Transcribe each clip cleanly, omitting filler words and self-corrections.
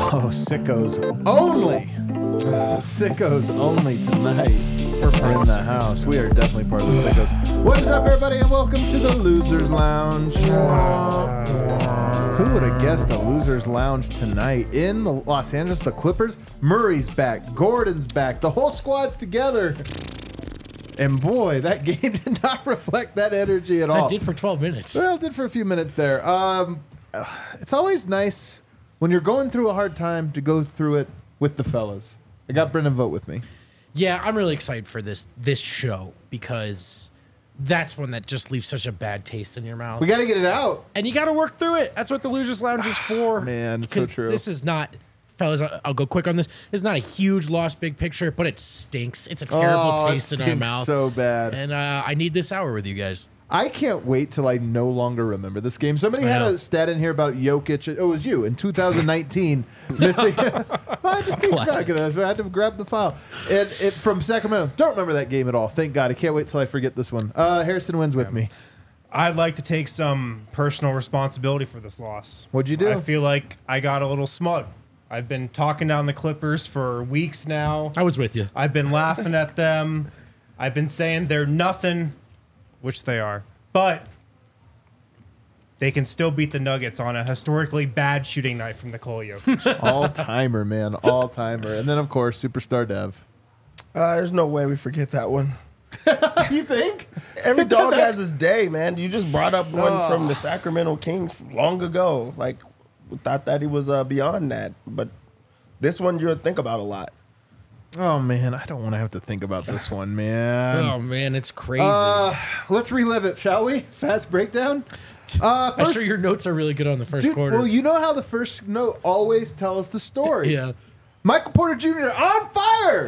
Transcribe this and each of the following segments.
Oh, sickos only. Sickos only tonight. We're in the house. We are definitely part of the sickos. What is up, everybody, and welcome to the Losers Lounge. Who would have guessed a Losers Lounge tonight in the Los Angeles? The Clippers. Murray's back. Gordon's back. The whole squad's together. And boy, that game did not reflect that energy at all. It did for 12 minutes. Well, it did for a few minutes there. It's always nice when you're going through a hard time to go through it with the fellas. I got Brendan vote with me. Yeah, I'm really excited for this show because that's one that just leaves such a bad taste in your mouth. We got to get it out. And you got to work through it. That's what the Losers Lounge is for. Man, it's so true. This is not, fellas, I'll go quick on this. This is not a huge loss, big picture, but it stinks. It's a terrible taste in our mouth. So bad. And I need this hour with you guys. I can't wait till I no longer remember this game. Somebody had a stat in here about Jokic. Oh, it was you in 2019 missing. I had to grab the file. And it from Sacramento. Don't remember that game at all. Thank God. I can't wait till I forget this one. Harrison wins with me. I'd like to take some personal responsibility for this loss. What'd you do? I feel like I got a little smug. I've been talking down the Clippers for weeks now. I was with you. I've been laughing at them. I've been saying they're nothing, which they are. But they can still beat the Nuggets on a historically bad shooting night from Nikola Jokic. All-timer, man. All-timer. And then, of course, Superstar Dev. There's no way we forget that one. You think? Every dog has his day, man. You just brought up one from the Sacramento Kings long ago. Like, we thought that he was beyond that. But this one you'll think about a lot. Oh, man. I don't want to have to think about this one, man. Oh, man, it's crazy. Let's relive it, shall we? Fast breakdown. I'm sure your notes are really good on the first quarter. Well, you know how the first note always tells the story. Yeah. Michael Porter Jr. on fire.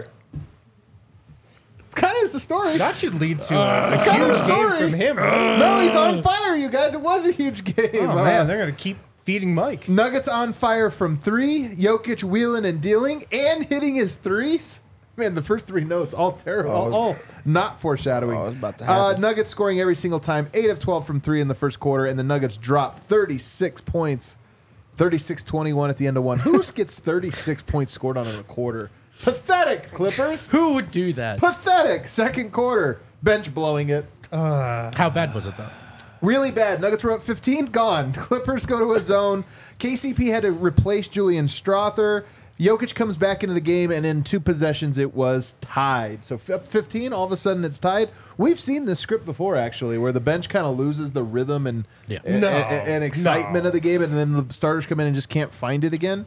Kind of is the story. That should lead to a kind of huge a story. game from him. No, he's on fire, you guys. It was a huge game. Oh, man, they're going to keep feeding Mike. Nuggets on fire from three. Jokic wheeling and dealing and hitting his threes. Man, the first three notes, all terrible, all not foreshadowing. Oh, it was about to happen. Nuggets scoring every single time, 8 of 12 from three in the first quarter, and the Nuggets dropped 36 points, 36-21 at the end of one. Who gets 36 points scored on in a quarter? Pathetic, Clippers. Who would do that? Pathetic. Second quarter, bench blowing it. How bad was it, though? Really bad. Nuggets were up 15, gone. Clippers go to a zone. KCP had to replace Julian Strother. Jokic comes back into the game, and in 2 possessions, it was tied. So up 15, all of a sudden it's tied. We've seen this script before, actually, where the bench kind of loses the rhythm and excitement of the game, and then the starters come in and just can't find it again.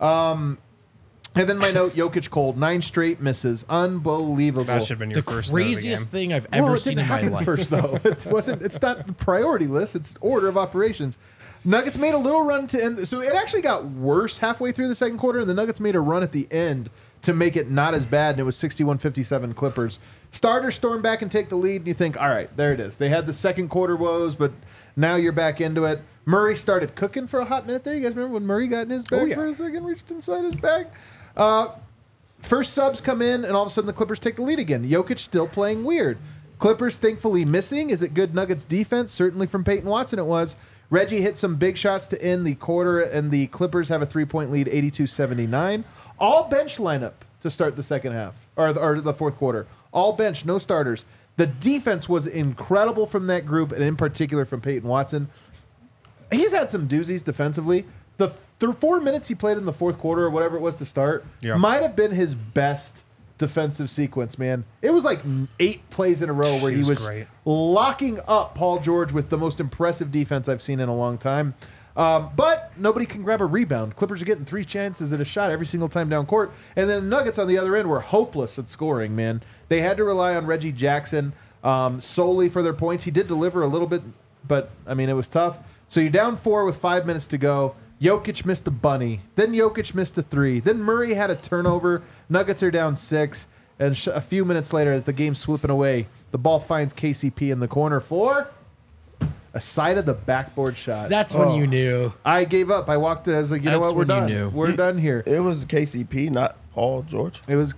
And then my note, Jokic cold, 9 straight misses. Unbelievable. That should have been your The first note of the craziest game. thing I've ever seen in my life. First, though. It's not the priority list. It's order of operations. Nuggets made a little run to end. So it actually got worse halfway through the second quarter, and the Nuggets made a run at the end to make it not as bad, and it was 61-57 Clippers. Starters storm back and take the lead, and you think, all right, there it is. They had the second quarter woes, but now you're back into it. Murray started cooking for a hot minute there. You guys remember when Murray got in his bag for a second, reached inside his bag? First subs come in, and all of a sudden the Clippers take the lead again. Jokic still playing weird. Clippers thankfully missing. Is it good Nuggets defense? Certainly from Peyton Watson it was. Reggie hit some big shots to end the quarter, and the Clippers have a 3-point lead, 82-79. All bench lineup to start the second half, or the fourth quarter. All bench, no starters. The defense was incredible from that group, and in particular from Peyton Watson. He's had some doozies defensively. The 4 minutes he played in the fourth quarter, or whatever it was to start, might have been his best defensive sequence, man. It was like 8 plays in a row where he was locking up Paul George with the most impressive defense I've seen in a long time. But nobody can grab a rebound. Clippers are getting 3 chances at a shot every single time down court. And then the Nuggets on the other end were hopeless at scoring, man. They had to rely on Reggie Jackson solely for their points. He did deliver a little bit, but, I mean, it was tough. So you're down 4 with 5 minutes to go. Jokic missed a bunny. Then Jokic missed a 3. Then Murray had a turnover. Nuggets are down 6. And a few minutes later, as the game's slipping away, the ball finds KCP in the corner for a side of the backboard shot. That's when you knew. I gave up. I walked. I was like, you know what? We're done. We're done here. It was KCP, not Paul George. It was.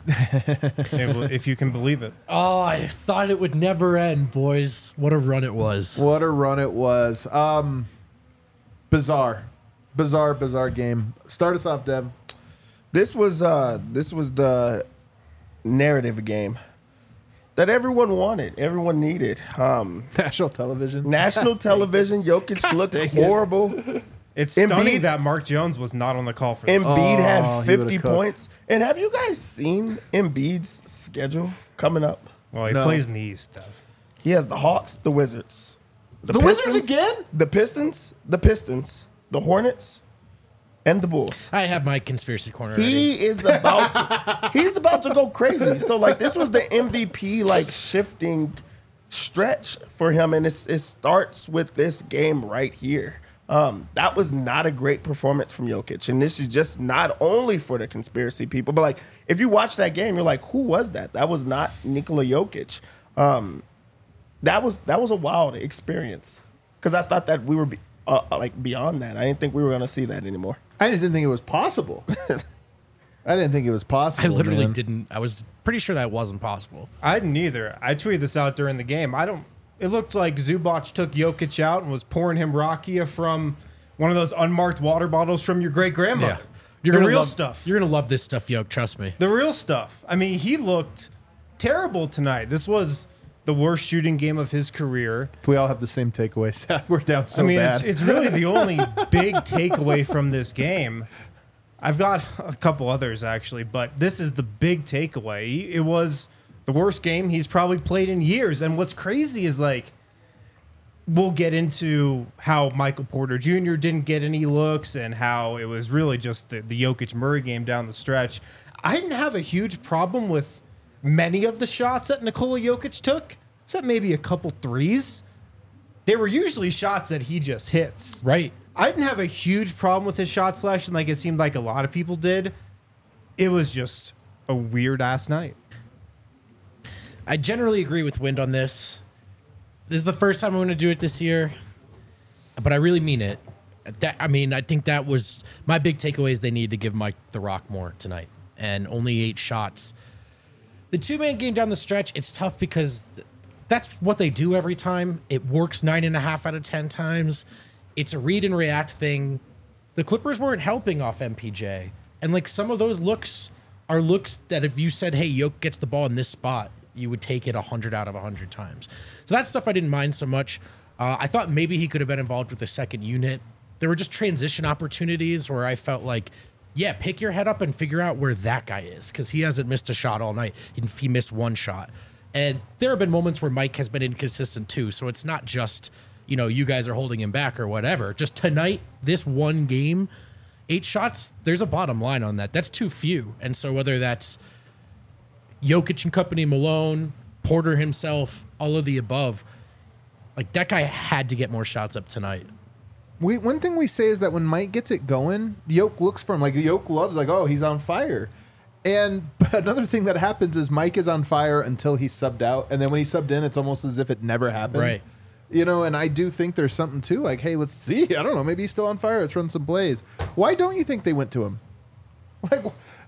If you can believe it. Oh, I thought it would never end, boys. What a run it was. What a run it was. Bizarre game. Start us off, Deb. This was the narrative game that everyone wanted, everyone needed. National television. National television. Jokic looked horrible. It's stunning Embiid- that Mark Jones was not on the call for this. Embiid Oh, had he would've 50 cooked. points. And have you guys seen Embiid's schedule coming up? Well, he No. plays in the East, Steph. He has the Hawks, the Wizards. The Wizards again? The Pistons, the Hornets, and the Bulls. I have my conspiracy corner already. He's about to go crazy. So like this was the MVP like shifting stretch for him, and it starts with this game right here. That was not a great performance from Jokic, and this is just not only for the conspiracy people, but like if you watch that game, you're like, who was that? That was not Nikola Jokic. That was a wild experience because I thought that we were like beyond that. I didn't think we were gonna see that anymore. I just didn't think it was possible. I didn't think it was possible. I literally man. didn't. I was pretty sure that wasn't possible. I didn't either. I tweeted this out during the game. It looked like Zubac took Jokic out and was pouring him rakia from one of those unmarked water bottles from your great grandma. The gonna real love, stuff. You're gonna love this stuff, Yoke. Trust me. The real stuff. I mean, he looked terrible tonight. This was the worst shooting game of his career. We all have the same takeaway. Seth, we're down so I mean, bad. it's really the only big takeaway from this game. I've got a couple others actually, but this is the big takeaway. It was the worst game he's probably played in years. And what's crazy is like, we'll get into how Michael Porter Jr. didn't get any looks and how it was really just the Jokic Murray game down the stretch. I didn't have a huge problem with many of the shots that Nikola Jokic took, except maybe a couple threes. They were usually shots that he just hits. Right. I didn't have a huge problem with his shot selection like it seemed like a lot of people did. It was just a weird ass night. I generally agree with Wind on this. This is the first time I'm going to do it this year, but I really mean it. I think that was my big takeaway is they need to give Mike the rock more tonight, and only 8 shots. The 2-man game down the stretch, it's tough because that's what they do every time. It works 9.5 out of 10 times. It's a read and react thing. The Clippers weren't helping off MPJ, and like some of those looks are looks that if you said, "Hey, Yoke gets the ball in this spot," you would take it 100 out of 100 times. So that stuff I didn't mind so much. I thought maybe he could have been involved with the second unit. There were just transition opportunities where I felt like, yeah, pick your head up and figure out where that guy is because he hasn't missed a shot all night. He missed 1 shot. And there have been moments where Mike has been inconsistent too. So it's not just, you guys are holding him back or whatever. Just tonight, this one game, 8 shots, there's a bottom line on that. That's too few. And so whether that's Jokic and company, Malone, Porter himself, all of the above, like that guy had to get more shots up tonight. One thing we say is that when Mike gets it going, Yoke looks for him. Like Yoke loves, like, oh, he's on fire. And another thing that happens is Mike is on fire until he's subbed out, and then when he subbed in, it's almost as if it never happened. Right. And I do think there's something too. Like, hey, let's see. I don't know. Maybe he's still on fire. Let's run some plays. Why don't you think they went to him? Like,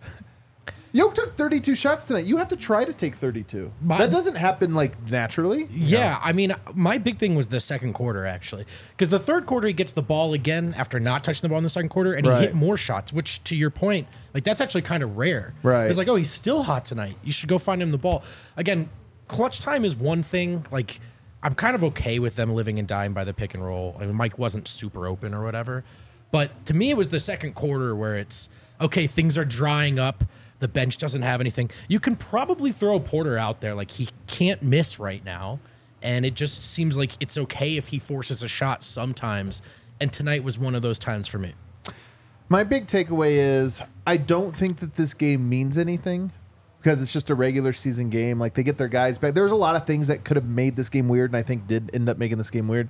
Yoke took 32 shots tonight. You have to try to take 32. That doesn't happen like naturally. Yeah, I mean, my big thing was the second quarter, actually. Because the third quarter, he gets the ball again after not touching the ball in the second quarter, and he Right. hit more shots, which, to your point, like that's actually kind of rare. Right. It's like, oh, he's still hot tonight. You should go find him the ball. Again, clutch time is one thing. Like, I'm kind of okay with them living and dying by the pick and roll. I mean, Mike wasn't super open or whatever. But to me, it was the second quarter where it's, okay, things are drying up. The bench doesn't have anything. You can probably throw Porter out there. Like, he can't miss right now. And it just seems like it's okay if he forces a shot sometimes. And tonight was one of those times for me. My big takeaway is I don't think that this game means anything because it's just a regular season game. Like, they get their guys back. There's a lot of things that could have made this game weird, and I think did end up making this game weird.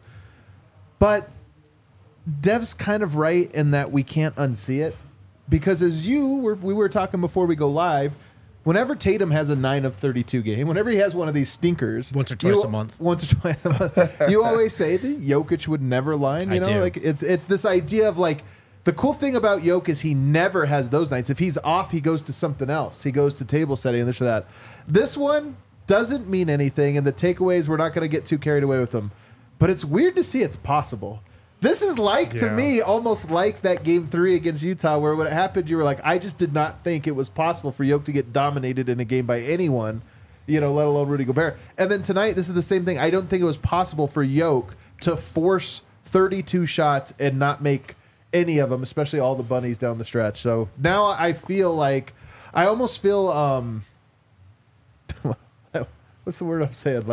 But Dev's kind of right in that we can't unsee it. Because as we were talking before we go live, whenever Tatum has a 9 of 32 game, whenever he has one of these stinkers, Once or twice a month, you always say that Jokic would never line. You know, do. like it's this idea of like the cool thing about Jokic is he never has those nights. If he's off, he goes to something else. He goes to table setting and this or that. This one doesn't mean anything, and the takeaways we're not going to get too carried away with them. But it's weird to see it's possible. This is like, to Yeah. me, almost like that game 3 against Utah, where when it happened, you were like, I just did not think it was possible for Yoke to get dominated in a game by anyone, let alone Rudy Gobert. And then tonight, this is the same thing. I don't think it was possible for Yoke to force 32 shots and not make any of them, especially all the bunnies down the stretch. So now I feel like, I almost feel, what's the word I'm saying?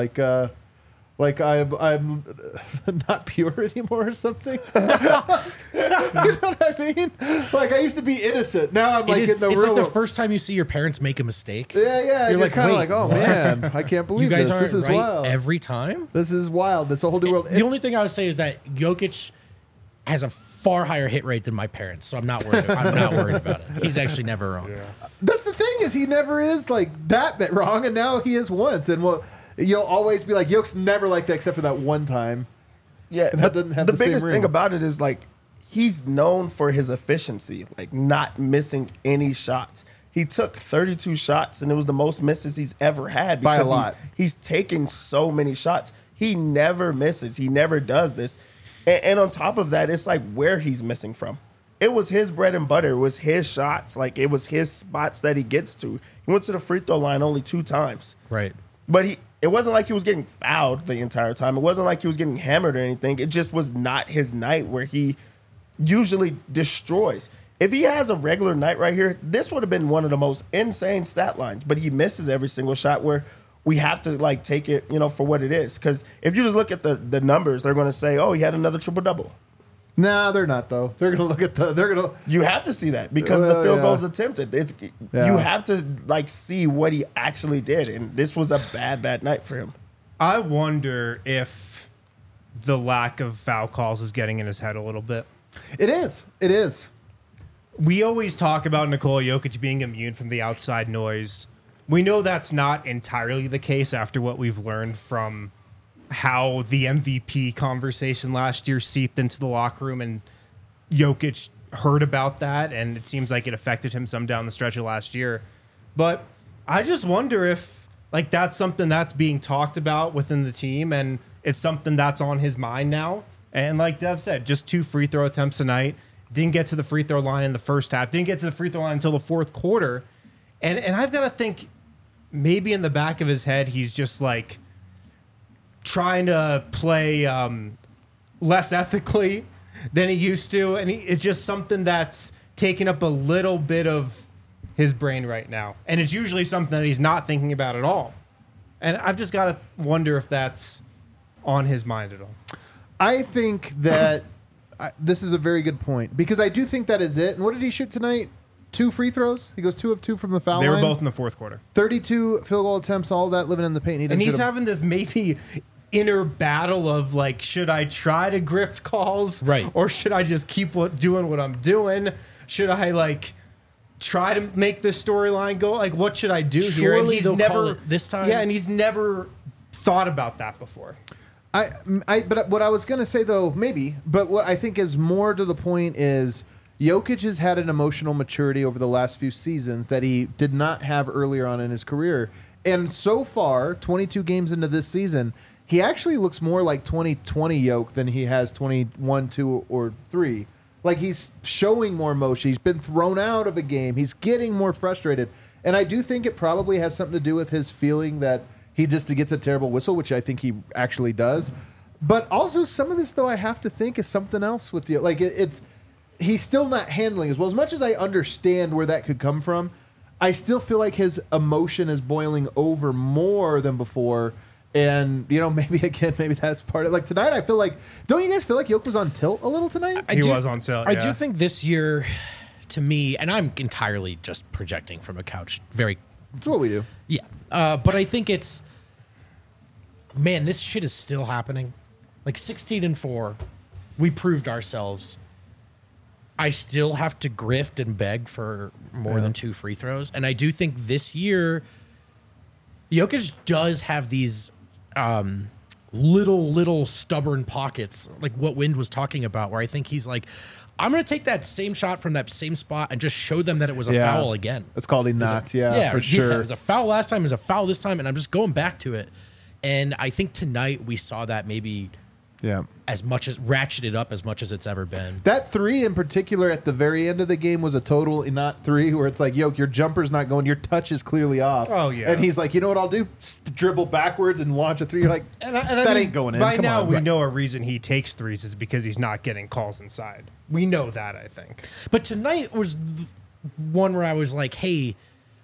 Like I'm not pure anymore or something. You know what I mean? Like I used to be innocent. Now I'm like in the it's real. like the first time you see your parents make a mistake. Yeah. You're like, kind of wait, like, oh what? man, I can't believe You guys this. aren't This is right wild. every time. This is wild. This a whole new world. The only thing I would say is that Jokic has a far higher hit rate than my parents, so I'm not worried. I'm not worried about it. He's actually never wrong. That's the thing is he never is like that bit wrong, and now he is once. And you'll always be like, Yoke's never like that except for that one time. Yeah, And that doesn't have the the same biggest ring. thing about it is like he's known for his efficiency, like not missing any shots. He took 32 shots, and it was the most misses he's ever had By a because lot. he's taken so many shots. He never misses. He never does this. And on top of that, it's like where he's missing from. It was his bread and butter. It was his shots. Like it was his spots that he gets to. He went to the free throw line only 2 times. Right. But it wasn't like he was getting fouled the entire time. It wasn't like he was getting hammered or anything. It just was not his night where he usually destroys. If he has a regular night right here, this would have been one of the most insane stat lines. But he misses every single shot where we have to like take it, for what it is. Because if you just look at the numbers, they're going to say, oh, he had another triple-double. Nah, they're not though. They're gonna look at You have to see that because the field goals attempted. Yeah. You have to like see what he actually did, and this was a bad night for him. I wonder if the lack of foul calls is getting in his head a little bit. It is. We always talk about Nikola Jokic being immune from the outside noise. We know that's not entirely the case after what we've learned from how the MVP conversation last year seeped into the locker room, and Jokic heard about that, and it seems like it affected him some down the stretch of last year. But I just wonder if like that's something that's being talked about within the team, and it's something that's on his mind now. And like Dev said, just 2 free throw attempts tonight. Didn't get to the free throw line in the first half. Didn't get to the free throw line until the fourth quarter. And I've got to think maybe in the back of his head, he's just like trying to play less ethically than he used to. And it's just something that's taking up a little bit of his brain right now. And it's usually something that he's not thinking about at all. And I've just got to wonder if that's on his mind at all. I think that this is a very good point because I do think that is it. And what did he shoot tonight? 2 free throws. He goes 2 of 2 from the foul line. They were both in the fourth quarter. 32 field goal attempts, all that living in the paint. And he's having this maybe inner battle of like, should I try to grift calls? Right. Or should I just keep doing what I'm doing? Should I like try to make this storyline go? Like, what should I do here? And Surely he's they'll never call it this time. Yeah, and he's never thought about that before. But what I was going to say though, maybe, but what I think is more to the point is Jokic has had an emotional maturity over the last few seasons that he did not have earlier on in his career. And so far, 22 games into this season, he actually looks more like 2020 Yoke than he has 21, 2, or 3. Like he's showing more emotion. He's been thrown out of a game. He's getting more frustrated. And I do think it probably has something to do with his feeling that he just gets a terrible whistle, which I think he actually does. But also some of this, though, I have to think is something else with you. Like it's he's still not handling as well. As much as I understand where that could come from, I still feel like his emotion is boiling over more than before. And, maybe that's part of it. Like tonight, I feel like, don't you guys feel like Yoke was on tilt a little tonight? He was on tilt, I yeah. do think this year, to me, and I'm entirely just projecting from a couch, That's what we do. yeah. But I think it's, man, this shit is still happening. Like 16-4, we proved ourselves. I still have to grift and beg for more than 2 free throws. And I do think this year, Jokic does have these little stubborn pockets, like what Wind was talking about, where I think he's like, I'm going to take that same shot from that same spot and just show them that it was a foul again. It's called a knot, for sure. Yeah, it was a foul last time, it was a foul this time, and I'm just going back to it. And I think tonight we saw that maybe Yeah. as much as ratcheted up as much as it's ever been. That 3 in particular at the very end of the game was a total not 3 where it's like, yo, your jumper's not going, your touch is clearly off. Oh, yeah. And he's like, you know what I'll do? Dribble backwards and launch a 3. You're like, And I that mean, ain't going in. By Come now, on. we know a reason he takes threes is because he's not getting calls inside. We know that, I think. But tonight was the one where I was like, hey,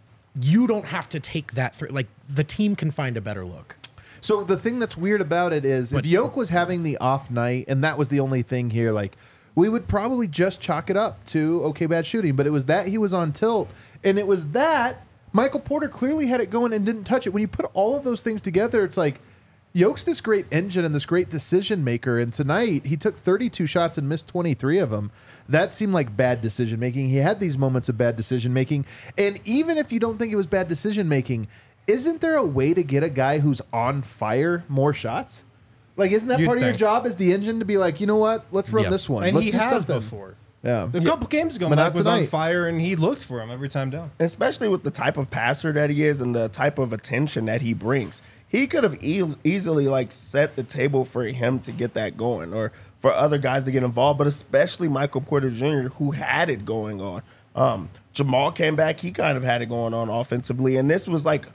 you don't have to take that three. Like, the team can find a better look. So the thing that's weird about it is if Yoke was having the off night and that was the only thing here, like we would probably just chalk it up to okay, bad shooting. But it was that he was on tilt, and it was that Michael Porter clearly had it going and didn't touch it. When you put all of those things together, it's like Yoke's this great engine and this great decision maker. And tonight he took 32 shots and missed 23 of them. That seemed like bad decision making. He had these moments of bad decision making. And even if you don't think it was bad decision making, isn't there a way to get a guy who's on fire more shots? Like, isn't that You'd part of your think. job as the engine to be like, you know what? Let's run Yeah. this one. And Let's he do has something. before. Yeah. A couple games ago, But not Mike was on tonight. fire, and he looked for him every time down. Especially with the type of passer that he is and the type of attention that he brings. He could have easily like set the table for him to get that going or for other guys to get involved, but especially Michael Porter Jr., who had it going on. Jamal came back. He kind of had it going on offensively. And this was like,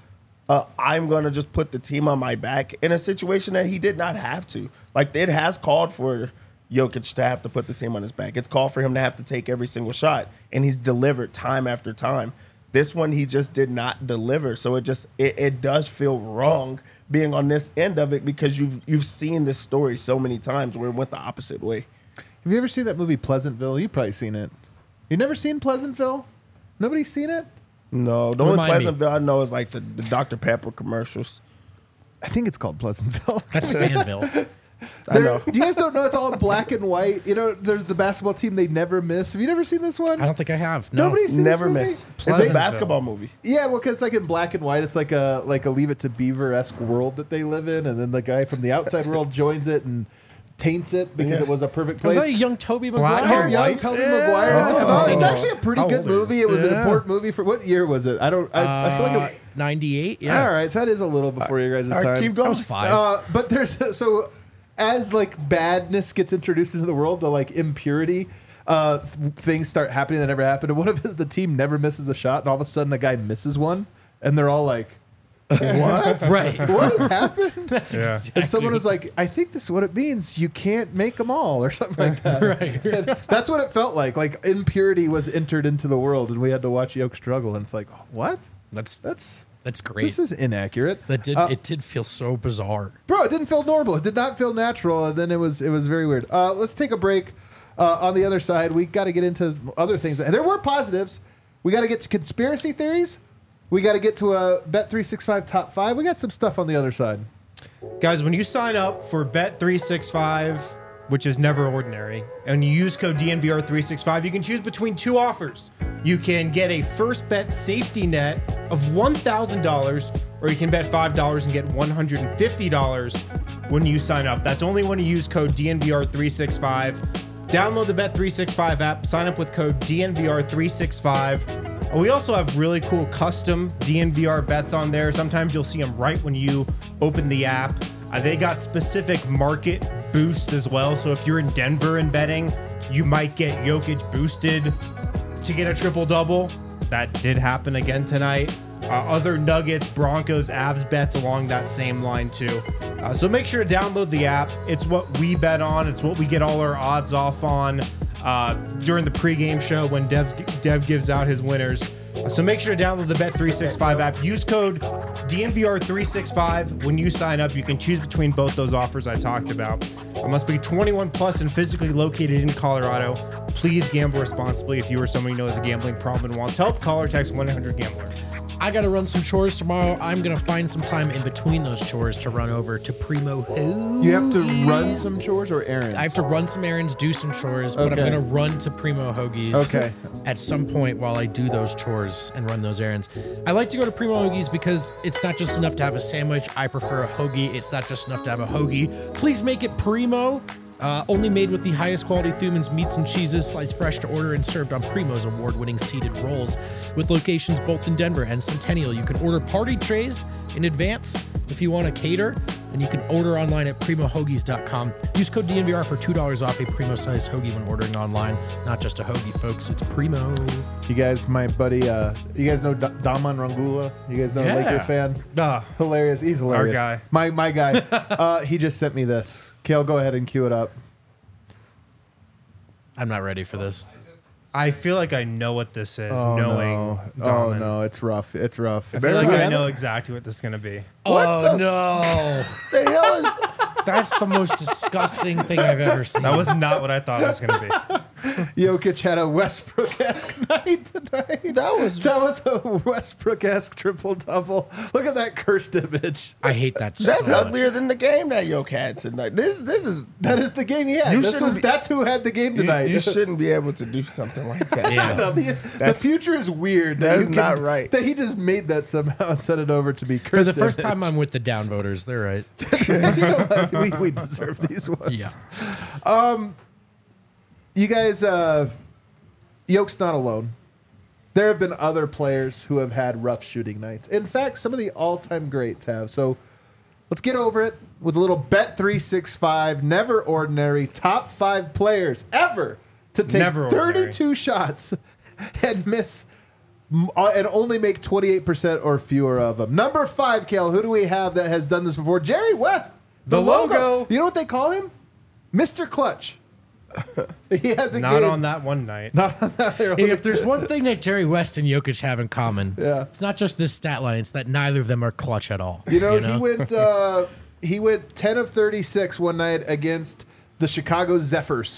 I'm going to just put the team on my back in a situation that he did not have to. Like, it has called for Jokic to have to put the team on his back. It's called for him to have to take every single shot, and he's delivered time after time. This one, he just did not deliver. So it does feel wrong being on this end of it because you've seen this story so many times where it went the opposite way. Have you ever seen that movie Pleasantville? You've probably seen it. You never seen Pleasantville? Nobody's seen it? No, the only Remind me. Pleasantville I know is like the Dr. Pepper commercials. I think it's called Pleasantville. That's Fanville. I know. You guys don't know it's all in black and white. You know, there's the basketball team they never miss. Have you never seen this one? I don't think I have. No. Nobody's seen Never this movie? miss. It's a Pleasantville. basketball movie. Yeah, well, because like in black and white, it's like a Leave It to Beaver-esque world that they live in, and then the guy from the outside world joins it and taints it because it was a perfect Was place. that a young Toby Black Maguire? and Young white? Tobey Maguire. Is it? Oh. It's actually a pretty How good old are you? movie. It was an Yeah. important movie for what year was it? I feel like it, 98. Yeah. all right, so that is a little before your guys' All right, time. keep I going. was 5. But there's so as like badness gets introduced into the world, the like impurity things start happening that never happened. And one of the team never misses a shot, and all of a sudden a guy misses one, and they're all like, "What? Right. What has happened?" That's Yeah. exactly And someone what was like, "I think this is what it means. You can't make them all," or something like that. Right. And that's what it felt like. Like impurity was entered into the world, and we had to watch Yoke struggle. And it's like, what? That's That's great. This is inaccurate. It did feel so bizarre. Bro, it didn't feel normal. It did not feel natural, and then it was very weird. Let's take a break. On the other side, we got to get into other things. And there were positives. We got to get to conspiracy theories. We got to get to a Bet365 top 5. We got some stuff on the other side. Guys, when you sign up for Bet365, which is never ordinary, and you use code DNVR365, you can choose between 2 offers. You can get a first bet safety net of $1,000, or you can bet $5 and get $150 when you sign up. That's only when you use code DNVR365. Download the Bet365 app, sign up with code DNVR365. We also have really cool custom DNVR bets on there. Sometimes you'll see them right when you open the app. They got specific market boosts as well. So if you're in Denver and betting, you might get Jokic boosted to get a triple-double. That did happen again tonight. Other Nuggets, Broncos, Avs bets along that same line too. So make sure to download the app. It's what we bet on. It's what we get all our odds off on during the pregame show when Dev gives out his winners. So make sure to download the Bet365 app. Use code DNVR365 when you sign up. You can choose between both those offers I talked about. It must be 21 plus and physically located in Colorado. Please gamble responsibly. If you or someone you know has a gambling problem and wants help, call or text 1-800-GAMBLER. I got to run some chores tomorrow. I'm going to find some time in between those chores to run over to Primo Hoagies. You have to run some chores or errands? I have to run some errands, do some chores, but I'm Okay. going to run to Primo Hoagies Okay. at some point while I do those chores and run those errands. I like to go to Primo Hoagies because it's not just enough to have a sandwich. I prefer a hoagie. It's not just enough to have a hoagie. Please make it Primo. Only made with the highest quality Thumann's meats and cheeses, sliced fresh to order and served on Primo's award-winning seated rolls. With locations both in Denver and Centennial, you can order party trays in advance if you want to cater, and you can order online at primohoagies.com. Use code DNVR for $2 off a Primo-sized hoagie when ordering online. Not just a hoagie, folks. It's Primo. You guys, my buddy, you guys know Daman Rangula? You guys know a Yeah. Laker fan? Hilarious. He's hilarious. guy. My guy. He just sent me this. Kale, go ahead and cue it up. I'm not ready for this. I feel like I know what this is, Oh, knowing no. Oh, Daman. no. It's rough. It's rough. I feel like I Better- know exactly what this is going to be. Oh, no. The hell is That's the most disgusting thing I've ever seen. That was not what I thought it was going to be. Jokic had a Westbrook-esque night tonight. that was That was a Westbrook-esque triple-double. Look at that cursed image. I hate that that's so much. uglier than the game that Yoke had tonight. This is That is the game he had. You shouldn't be- That's who had the game tonight. you shouldn't be able to do something like that. Yeah. No, the future is weird. That you is not right. That he just made that somehow and sent it over to be cursed. For the first image. time, I'm with the downvoters. They're right. You know what? we deserve these ones. Yeah. You guys, Yoke's not alone. There have been other players who have had rough shooting nights. In fact, some of the all-time greats have. So let's get over it with a little Bet365, never ordinary, top 5 players ever to take Never ordinary. 32 shots and miss and only make 28% or fewer of them. Number 5, Kale, who do we have that has done this before? Jerry West. The logo. You know what they call him? Mr. Clutch. He has a Not game. on that one night. Not on that. Hey, if there's one thing that Jerry West and Jokic have in common, Yeah. it's not just this stat line, it's that neither of them are clutch at all. He went 10 of 36 one night against the Chicago Zephyrs.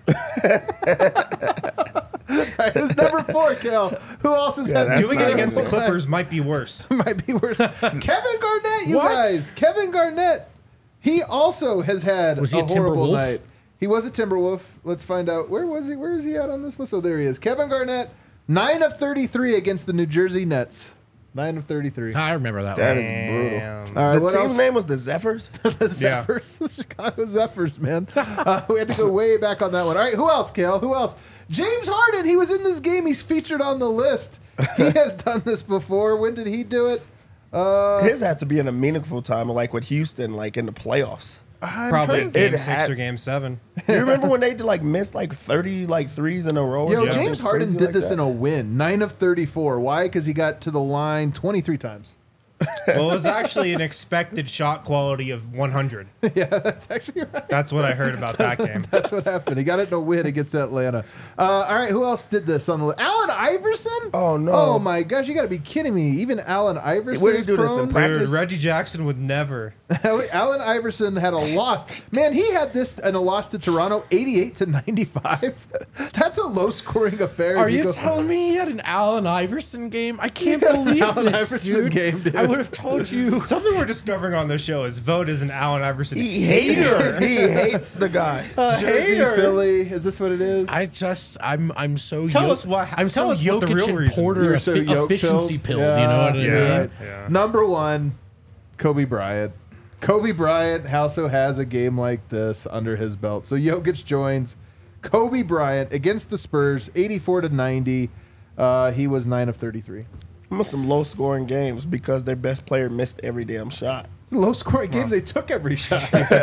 Right, who's number 4, Kel? Who else has had that's Doing not it against the okay. Clippers might be worse. Might be worse. Kevin Garnett, you What? guys. Kevin Garnett. He also has had Was he a horrible Timberwolf? night. He was a Timberwolf. Let's find out. Where was he? Where is he at on this list? Oh, there he is. Kevin Garnett, 9 of 33 against the New Jersey Nets. 9 of 33. I remember that That one. is brutal. Damn. All right, The what team else? name was the Zephyrs. The Zephyrs, the Chicago Zephyrs, man. We had to go way back on that one. All right, who else, Kale? Who else? James Harden. He was in this game. He's featured on the list. He has done this before. When did he do it? His had to be in a meaningful time, like with Houston, like in the playoffs. Probably game It 6 had or to- game 7. You remember when they did like miss like 30 like threes in a row? or Yo, something James Harden crazy did like this that? in a win. 9 of 34. Why? Because he got to the line 23 times. Well, it was actually an expected shot quality of 100. Yeah, that's actually right. That's what I heard about that game. That's what happened. He got it in a win against Atlanta. All right, who else did this on the list? Allen Iverson? Oh, no. Oh, my gosh. You got to be kidding me. Even Allen Iverson Where did is he do this, in prone? practice? Dude, Reggie Jackson would never. Allen Iverson had a loss. Man, he had this and a loss to Toronto, 88 to 95. That's a low-scoring affair. Are if you go- telling me he had an Allen Iverson game? I can't He had an believe Allen this, Iverson dude. game, dude. I would have told you. Something we're discovering on this show is Vote is an Allen Iverson He hates hater. He hates the guy. Jersey, hater. Philly. Is this what it is? I'm so Tell us what- I'm tell so us what the Jokic real and reason. Porter You're so yoke efficiency pilled? pilled. You know what I Yeah. mean? Right. Yeah. Number 1, Kobe Bryant. Kobe Bryant also has a game like this under his belt. So Jokic joins Kobe Bryant against the Spurs, 84 to 90. He was 9 of 33. Some low scoring games because their best player missed every damn shot. Low scoring game. They took every shot.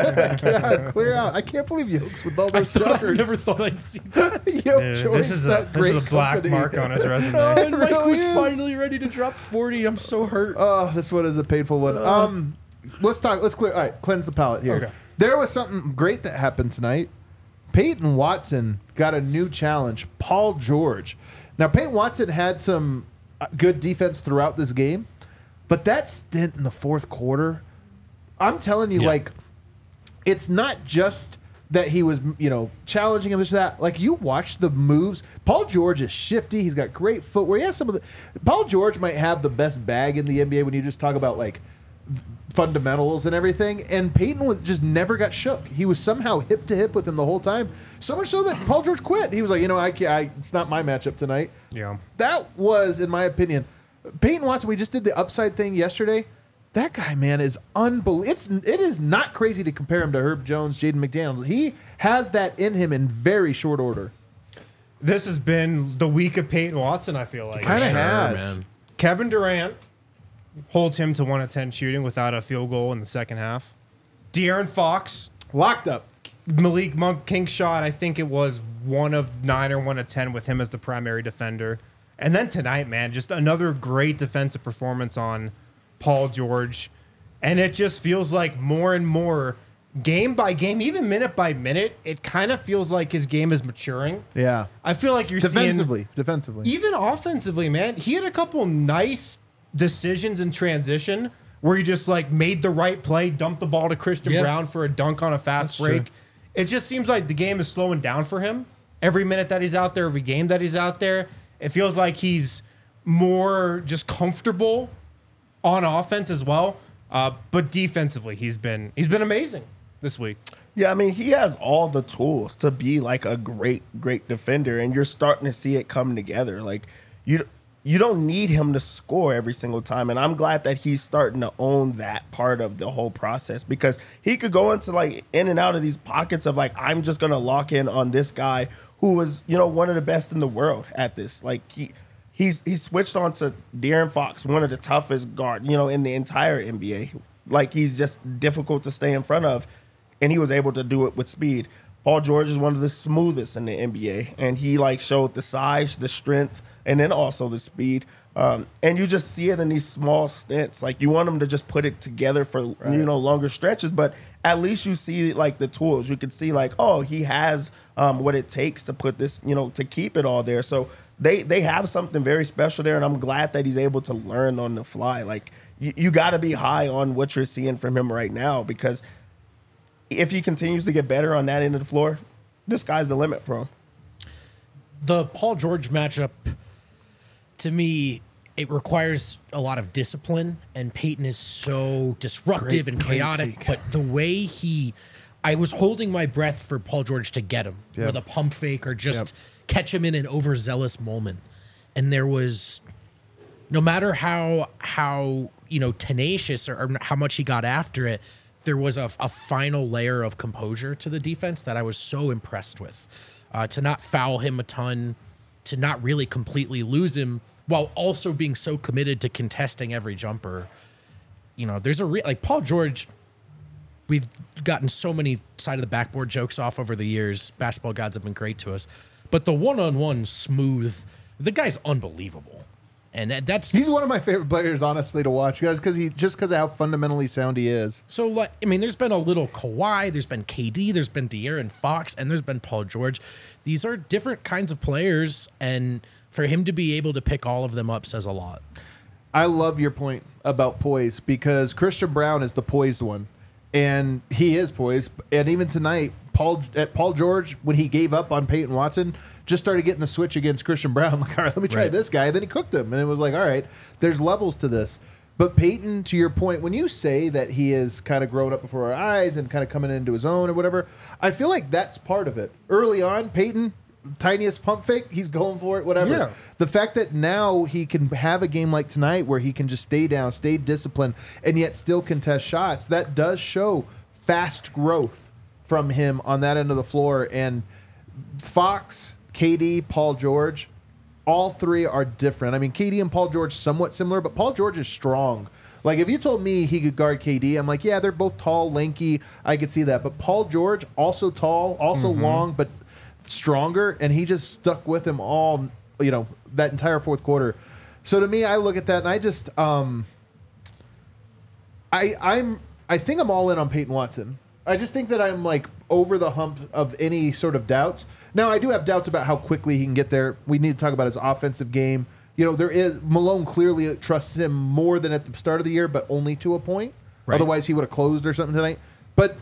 Clear out. I can't believe Yokes with all I those thought I jumpers. never thought I'd see that. Yoke Dude, joins this is that a great black company. mark on his resume. And Mike really was is. finally ready to drop 40. I'm so hurt. Oh, this one is a painful one. Let's clear. All right, cleanse the palate here. Okay. There was something great that happened tonight. Peyton Watson got a new challenge. Paul George. Now, Peyton Watson had some good defense throughout this game, but that stint in the fourth quarter, I'm telling you, Yeah. like, it's not just that he was, challenging him, this, that. Like, you watch the moves. Paul George is shifty. He's got great footwear. He has some of the. Paul George might have the best bag in the NBA when you just talk about, like, fundamentals and everything. And Peyton was just never got shook. He was somehow hip to hip with him the whole time. So much so that Paul George quit. He was like, it's not my matchup tonight. Yeah. That was, in my opinion, Peyton Watson. We just did the upside thing yesterday. That guy, man, is unbelievable. It is not crazy to compare him to Herb Jones, Jaden McDaniels. He has that in him in very short order. This has been the week of Peyton Watson, I feel like. Kinda Sure, has. man. Kevin Durant holds him to 1 of 10 shooting without a field goal in the second half. De'Aaron Fox, Locked up. Malik Monk, king shot. I think it was 1 of 9 or 1 of 10 with him as the primary defender. And then tonight, man, just another great defensive performance on Paul George. And it just feels like more and more, game by game, even minute by minute, it kind of feels like his game is maturing. Yeah. I feel like you're Defensively. even offensively, man, he had a couple nice decisions in transition where he just like made the right play, dumped the ball to Christian Yep. Brown for a dunk on a fast That's break. true. It just seems like the game is slowing down for him. Every minute that he's out there, every game that he's out there, it feels like he's more just comfortable on offense as well. But defensively, he's been amazing this week. Yeah, I mean, he has all the tools to be like a great defender, and you're starting to see it come together. Like you don't need him to score every single time, and I'm glad that he's starting to own that part of the whole process, because he could go into like in and out of these pockets of like, I'm just gonna lock in on this guy who was, you know, one of the best in the world at this. Like he's switched on to De'Aaron Fox, one of the toughest guard, you know, in the entire NBA. Like, he's just difficult to stay in front of, and he was able to do it with speed. Paul George is one of the smoothest in the NBA, and he like showed the size, the strength, and then also the speed. And you just see it in these small stints. Like, you want him to just put it together for you know, longer stretches, but at least you see like the tools. You can see like, oh, he has what it takes to put this, you know, to keep it all there. So they have something very special there, and I'm glad that he's able to learn on the fly. Like, you got to be high on what you're seeing from him right now, because if he continues to get better on that end of the floor, the sky's the limit for him. The Paul George matchup, to me, it requires a lot of discipline, and Peyton is so disruptive and chaotic. But the way I was holding my breath for Paul George to get him with a pump fake or just catch him in an overzealous moment. And there was, no matter how you know, tenacious or how much he got after it, there was a final layer of composure to the defense that I was so impressed with. To not foul him a ton, to not really completely lose him, while also being so committed to contesting every jumper. You know, there's like Paul George, we've gotten so many side of the backboard jokes off over the years. Basketball gods have been great to us. But the one-on-one smooth, the guy's unbelievable. And he's one of my favorite players, honestly, to watch, guys, because of how fundamentally sound he is. So, like, I mean, there's been a little Kawhi, there's been KD, there's been De'Aaron Fox, and there's been Paul George. These are different kinds of players, and for him to be able to pick all of them up says a lot. I love your point about poise, because Christian Brown is the poised one, and he is poised. And even tonight, Paul George, when he gave up on Peyton Watson, just started getting the switch against Christian Brown. Like, all right, let me try this guy. And then he cooked him, and it was like, all right, there's levels to this. But Peyton, to your point, when you say that he is kind of grown up before our eyes and kind of coming into his own or whatever, I feel like that's part of it. Early on, Peyton, tiniest pump fake, he's going for it, whatever. Yeah. The fact that now he can have a game like tonight where he can just stay down, stay disciplined, and yet still contest shots, that does show fast growth from him on that end of the floor. And Fox, KD, Paul George, all three are different. I mean, KD and Paul George somewhat similar, but Paul George is strong. Like, if you told me he could guard KD, I'm like, yeah, they're both tall, lanky. I could see that. But Paul George, also tall, also long, but stronger, and he just stuck with him all, you know, that entire fourth quarter. So to me, I look at that and I just, I think I'm all in on Peyton Watson. I just think that I'm like over the hump of any sort of doubts. Now, I do have doubts about how quickly he can get there. We need to talk about his offensive game. You know, Malone clearly trusts him more than at the start of the year, but only to a point. Right. Otherwise, he would have closed or something tonight. But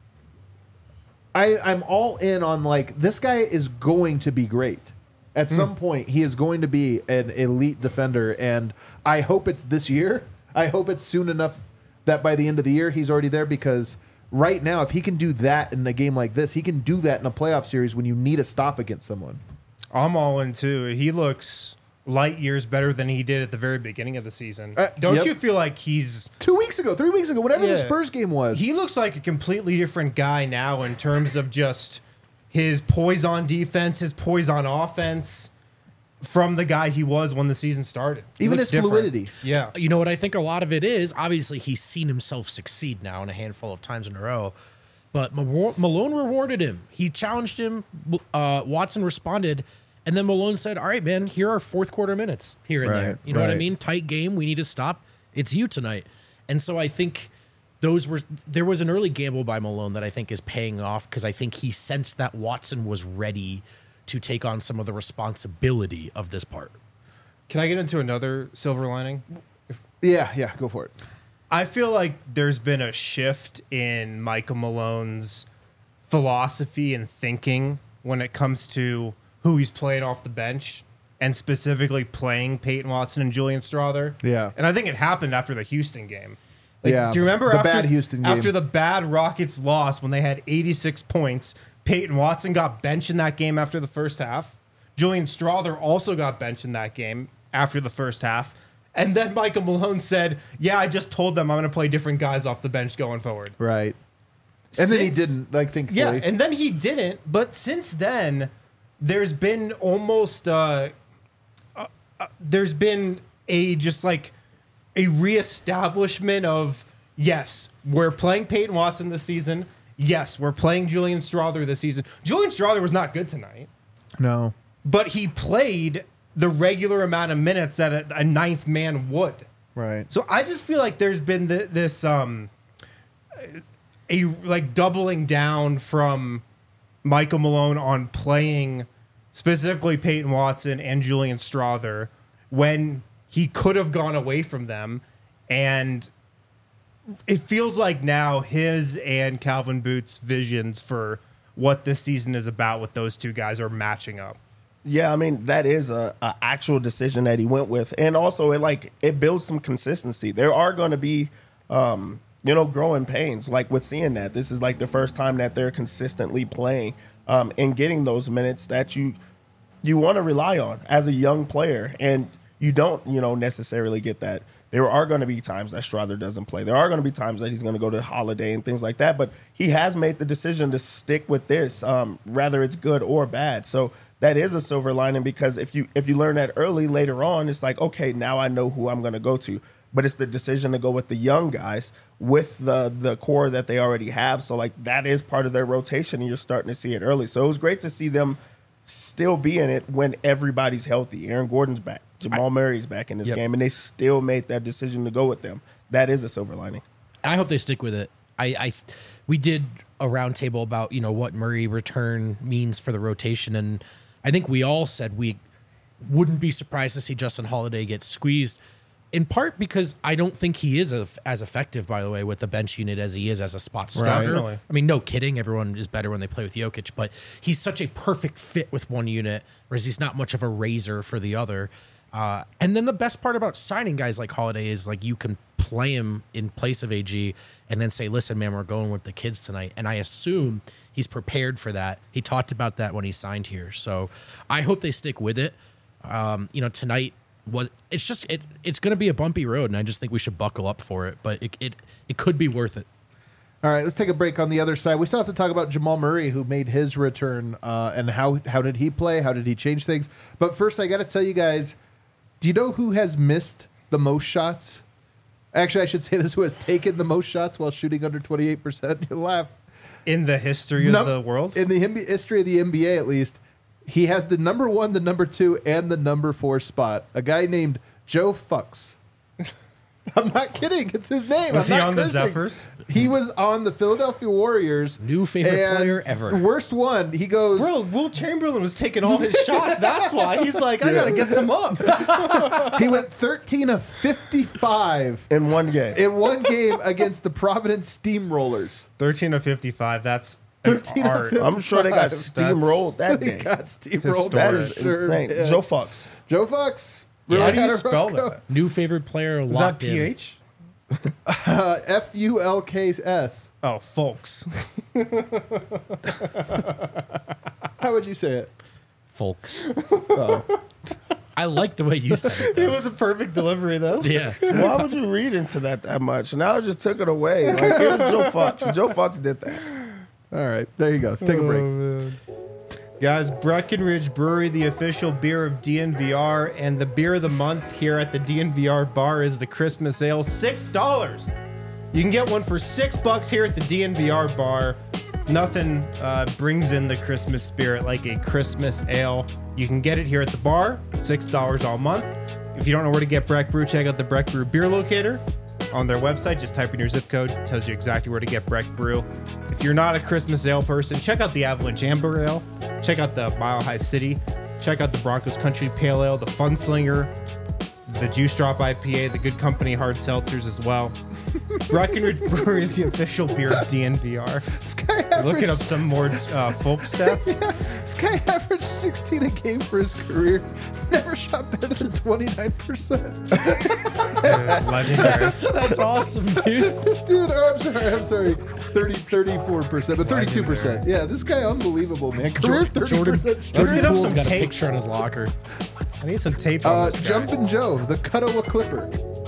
I'm all in on, like, this guy is going to be great. At some point, he is going to be an elite defender, and I hope it's this year. I hope it's soon enough that by the end of the year, he's already there, because right now, if he can do that in a game like this, he can do that in a playoff series when you need a stop against someone. I'm all in, too. He looks light years better than he did at the very beginning of the season. Don't you feel like he's 3 weeks ago, whatever the Spurs game was? He looks like a completely different guy now in terms of just his poise on defense, his poise on offense. from the guy he was when the season started. He Even looks his different. fluidity. Yeah. You know what I think a lot of it is? Obviously, he's seen himself succeed now in a handful of times in a row. But Malone rewarded him. He challenged him. Watson responded. And then Malone said, all right, man, here are fourth quarter minutes here and there. You know what I mean? Tight game. We need to stop. It's you tonight. And so I think there was an early gamble by Malone that I think is paying off because I think he sensed that Watson was ready to take on some of the responsibility of this part. Can I get into another silver lining? Yeah, go for it. I feel like there's been a shift in Michael Malone's philosophy and thinking when it comes to who he's playing off the bench and specifically playing Peyton Watson and Julian Strawther. Yeah. And I think it happened after the Houston game. Like, Yeah, do you remember the after, bad Houston game. after the bad Rockets loss when they had 86 points, Peyton Watson got benched in that game after the first half. Julian Strawther also got benched in that game after the first half. And then Michael Malone said, yeah, I just told them I'm going to play different guys off the bench going forward. Right. And then he didn't, thankfully. Yeah, and then he didn't. But since then, there's been almost there's been a reestablishment of, yes, we're playing Peyton Watson this season. Yes, we're playing Julian Strawther this season. Julian Strawther was not good tonight. No. But he played the regular amount of minutes that a ninth man would. Right. So I just feel like there's been this doubling down from Michael Malone on playing specifically Peyton Watson and Julian Strawther when he could have gone away from them. And it feels like now his and Calvin Booth's visions for what this season is about with those two guys are matching up. Yeah, I mean, that is a actual decision that he went with. And also, it builds some consistency. There are going to be, growing pains. Like with seeing that, this is like the first time that they're consistently playing and getting those minutes that you want to rely on as a young player. And you don't, necessarily get that. There are going to be times that Strawther doesn't play. There are going to be times that he's going to go to Holiday and things like that. But he has made the decision to stick with this, whether it's good or bad. So that is a silver lining because if you learn that early, later on, it's like, okay, now I know who I'm going to go to. But it's the decision to go with the young guys with the core that they already have. So like that is part of their rotation, and you're starting to see it early. So it was great to see them still be in it when everybody's healthy. Aaron Gordon's back. Jamal Murray's back in this game, and they still made that decision to go with them. That is a silver lining. I hope they stick with it. We did a roundtable about what Murray return means for the rotation, and I think we all said we wouldn't be surprised to see Justin Holiday get squeezed, in part because I don't think he is as effective, by the way, with the bench unit as he is as a spot starter. Definitely. I mean, no kidding. Everyone is better when they play with Jokic, but he's such a perfect fit with one unit, whereas he's not much of a razor for the other. And then the best part about signing guys like Holiday is like you can play him in place of AG and then say, listen, man, we're going with the kids tonight. And I assume he's prepared for that. He talked about that when he signed here. So I hope they stick with it. Tonight it's going to be a bumpy road, and I just think we should buckle up for it. But it could be worth it. All right, let's take a break on the other side. We still have to talk about Jamal Murray, who made his return, and how did he play? How did he change things? But first, I got to tell you guys, do you know who has missed the most shots? Actually, I should say this: who has taken the most shots while shooting under 28%? You laugh. In the history of the world? In the history of the NBA, at least, he has the number 1, the number 2, and the number 4 spot. A guy named Joe Fuchs. I'm not kidding. It's his name. Was I'm he not on the cursing. Zephyrs? He was on the Philadelphia Warriors. New favorite and player ever. The worst one. He goes. Bro, Will Chamberlain was taking all his shots. That's why. He's like, I got to get some up. He went 13 of 55 In one game. in one game against the Providence Steamrollers. 13 of 55. That's an 13 of art. 55. I'm sure they got steamrolled that He game. got steamrolled. That is Sure insane. did. Joe Fox. Joe Fox. How Really do you had a rough spell go. that? New favorite player Is that locked in. PH? Fulks. Oh, folks. How would you say it? Folks. Oh. I like the way you said it. It Though. was a perfect delivery, though. Yeah. Why would you read into that much? Now I just took it away. Like, it was Joe Fox. Joe Fox did that. All right. There you go. Let's take a break. Guys, Breckenridge Brewery, the official beer of DNVR, and the beer of the month here at the DNVR bar is the Christmas Ale, $6. You can get one for $6 here at the DNVR bar. Nothing brings in the Christmas spirit like a Christmas ale. You can get it here at the bar, $6 all month. If you don't know where to get Breck Brew, check out the Breck Brew Beer Locator on their website. Just type in your zip code. It tells you exactly where to get Breck Brew. If you're not a Christmas ale person, check out the Avalanche Amber Ale. Check out the Mile High City. Check out the Broncos Country Pale Ale, the Funslinger, the Juice Drop IPA, the Good Company Hard Seltzers as well. Breckenridge Brewery is the official beer of DNVR. Looking up some more folk stats. Yeah, this guy averaged 16 a game for his career. Never shot better than 29%. Legendary. That's awesome, dude. This dude, I'm sorry, 34%, but 32%. Yeah, this guy, unbelievable, man. Career 30%. Jordan Let's get up Poole's some got a tape. picture on his locker. I need some tape on this guy. Jumpin' Joe, the Cuttawa Clipper.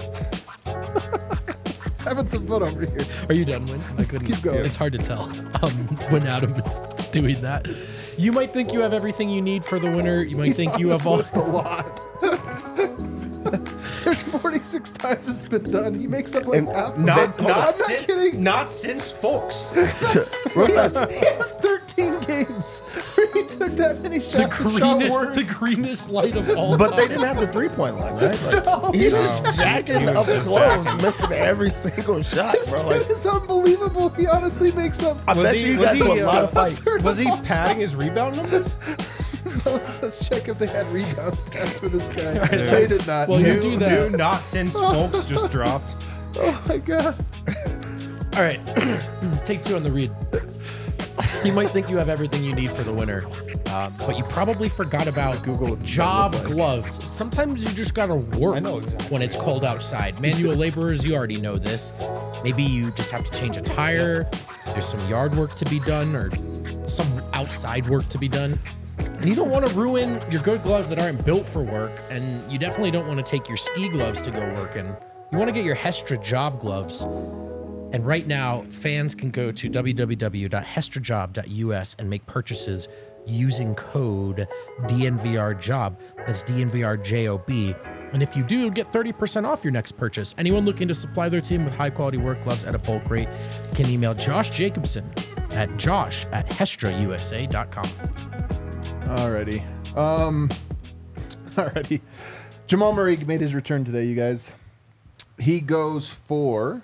Having some fun over here. Are you done, Win? I couldn't. Keep going. It's hard to tell when Adam is doing that. You might think you have everything you need for the winter. You might think you have all. List a lot. There's 46 times it's been done. He makes up like half. I'm not kidding. Not since folks. He has 13 games where he took that many shots. The greenest light of all But time. they didn't have the 3-point line, right? Like, No. he's just jacking He was up just close, missing every single shot, This bro. dude Like, is unbelievable. He honestly makes up. I bet you got to a lot of fights. Was he padding his rebound numbers? Let's check if they had rebound stats for this guy. They did not. Well, you do that. New not since folks just dropped. Oh my god. All right, take 2 on the read. You might think you have everything you need for the winter, but you probably forgot about Google what job that look like. gloves. Sometimes you just gotta work I know exactly. when it's cold outside. Manual laborers, you already know this. Maybe you just have to change a tire. There's some yard work to be done or some outside work to be done. And you don't want to ruin your good gloves that aren't built for work. And you definitely don't want to take your ski gloves to go work in. You want to get your Hestra job gloves. And right now, fans can go to www.hestrajob.us and make purchases using code DNVRJOB. That's DNVRJOB. And if you do, you'll get 30% off your next purchase. Anyone looking to supply their team with high-quality work gloves at a bulk rate can email Josh Jacobson at josh@hestrausa.com. Alrighty. Alrighty. Jamal Murray made his return today, you guys. He goes for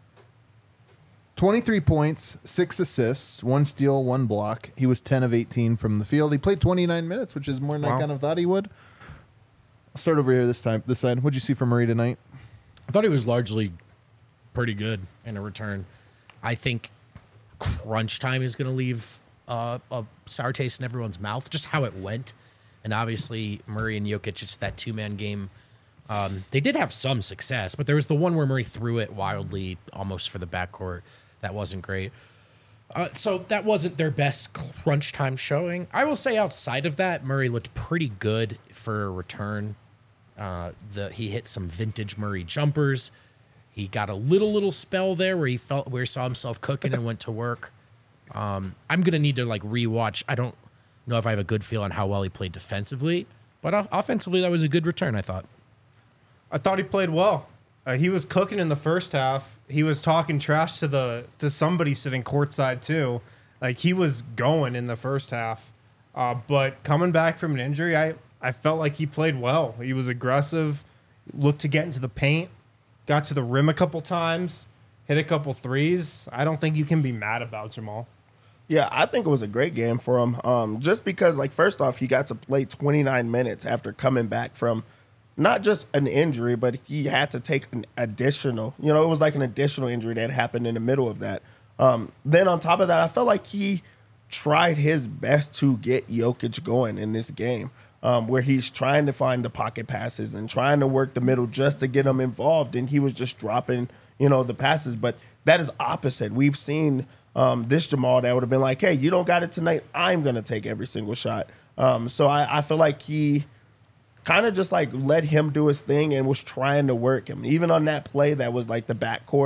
23 points, 6 assists, 1 steal, 1 block. He was 10 of 18 from the field. He played 29 minutes, which is more than I Wow. kind of thought he would. I'll start over here this side. What'd you see from Murray tonight? I thought he was largely pretty good in a return. I think crunch time is going to leave a sour taste in everyone's mouth, just how it went. And obviously, Murray and Jokic, it's that 2-man game. They did have some success, but there was the one where Murray threw it wildly almost for the backcourt. That wasn't great. So that wasn't their best crunch time showing. I will say outside of that, Murray looked pretty good for a return. He hit some vintage Murray jumpers. He got a little spell there where he saw himself cooking and went to work. I'm gonna need to rewatch. I don't know if I have a good feel on how well he played defensively, but offensively that was a good return, I thought. I thought he played well. He was cooking in the first half. He was talking trash to somebody sitting courtside too. Like he was going in the first half. But coming back from an injury, I felt like he played well. He was aggressive, looked to get into the paint, got to the rim a couple times, hit a couple threes. I don't think you can be mad about Jamal. Yeah, I think it was a great game for him. Just because, first off, he got to play 29 minutes after coming back from not just an injury, but he had to take an additional, it was like an additional injury that happened in the middle of that. Then on top of that, I felt like he tried his best to get Jokic going in this game, where he's trying to find the pocket passes and trying to work the middle just to get him involved. And he was just dropping, the passes. But that is opposite. We've seen this Jamal that would have been like, hey, you don't got it tonight. I'm going to take every single shot. So I feel like he kind of just let him do his thing and was trying to work him. Even on that play that was the backcourt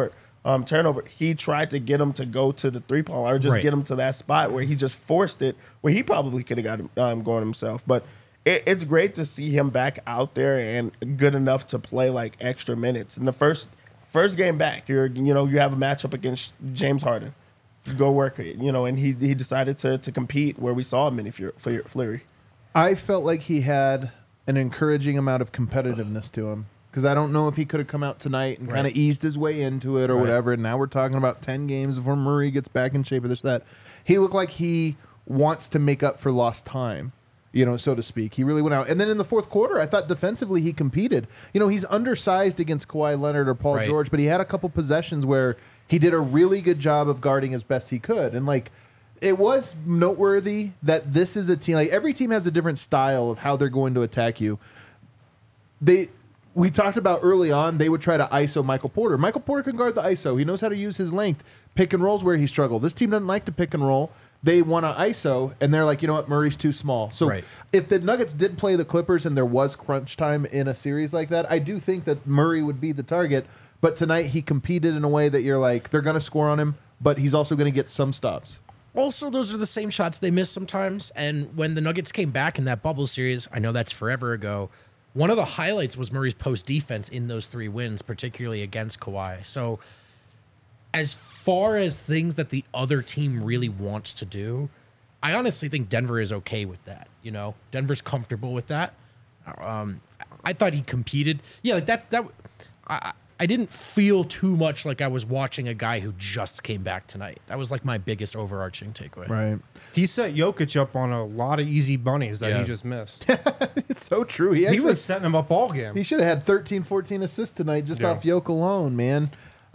turnover. He tried to get him to go to the 3-point line or just Right. get him to that spot where he just forced it, where he probably could have got him going himself. But it's great to see him back out there and good enough to play like extra minutes. In the first game back, you have a matchup against James Harden. Go work it, and he decided to compete where we saw him in Fleury. I felt like he had an encouraging amount of competitiveness to him because I don't know if he could have come out tonight and kind of eased his way into it or whatever. And now we're talking about 10 games before Murray gets back in shape or this, that. He looked like he wants to make up for lost time, so to speak. He really went out. And then in the fourth quarter, I thought defensively he competed. He's undersized against Kawhi Leonard or Paul George, but he had a couple possessions where he did a really good job of guarding as best he could. And it was noteworthy that this is a team, every team has a different style of how they're going to attack you. We talked about early on, they would try to ISO Michael Porter. Michael Porter can guard the ISO. He knows how to use his length. Pick and rolls where he struggled. This team doesn't like to pick and roll. They want to ISO, and they're like, you know what, Murray's too small. So if the Nuggets did play the Clippers and there was crunch time in a series like that, I do think that Murray would be the target. But tonight he competed in a way that you're like, they're going to score on him, but he's also going to get some stops. Also, those are the same shots they miss sometimes. And when the Nuggets came back in that bubble series, I know that's forever ago, one of the highlights was Murray's post defense in those 3 wins, particularly against Kawhi. So as far as things that the other team really wants to do, I honestly think Denver is okay with that. Denver's comfortable with that. I thought he competed. Yeah, I didn't feel too much like I was watching a guy who just came back tonight. That was my biggest overarching takeaway. Right. He set Jokic up on a lot of easy bunnies that Yeah. he just missed. It's so true. He was setting him up all game. He should have had 13, 14 assists tonight just off Yoke alone, man.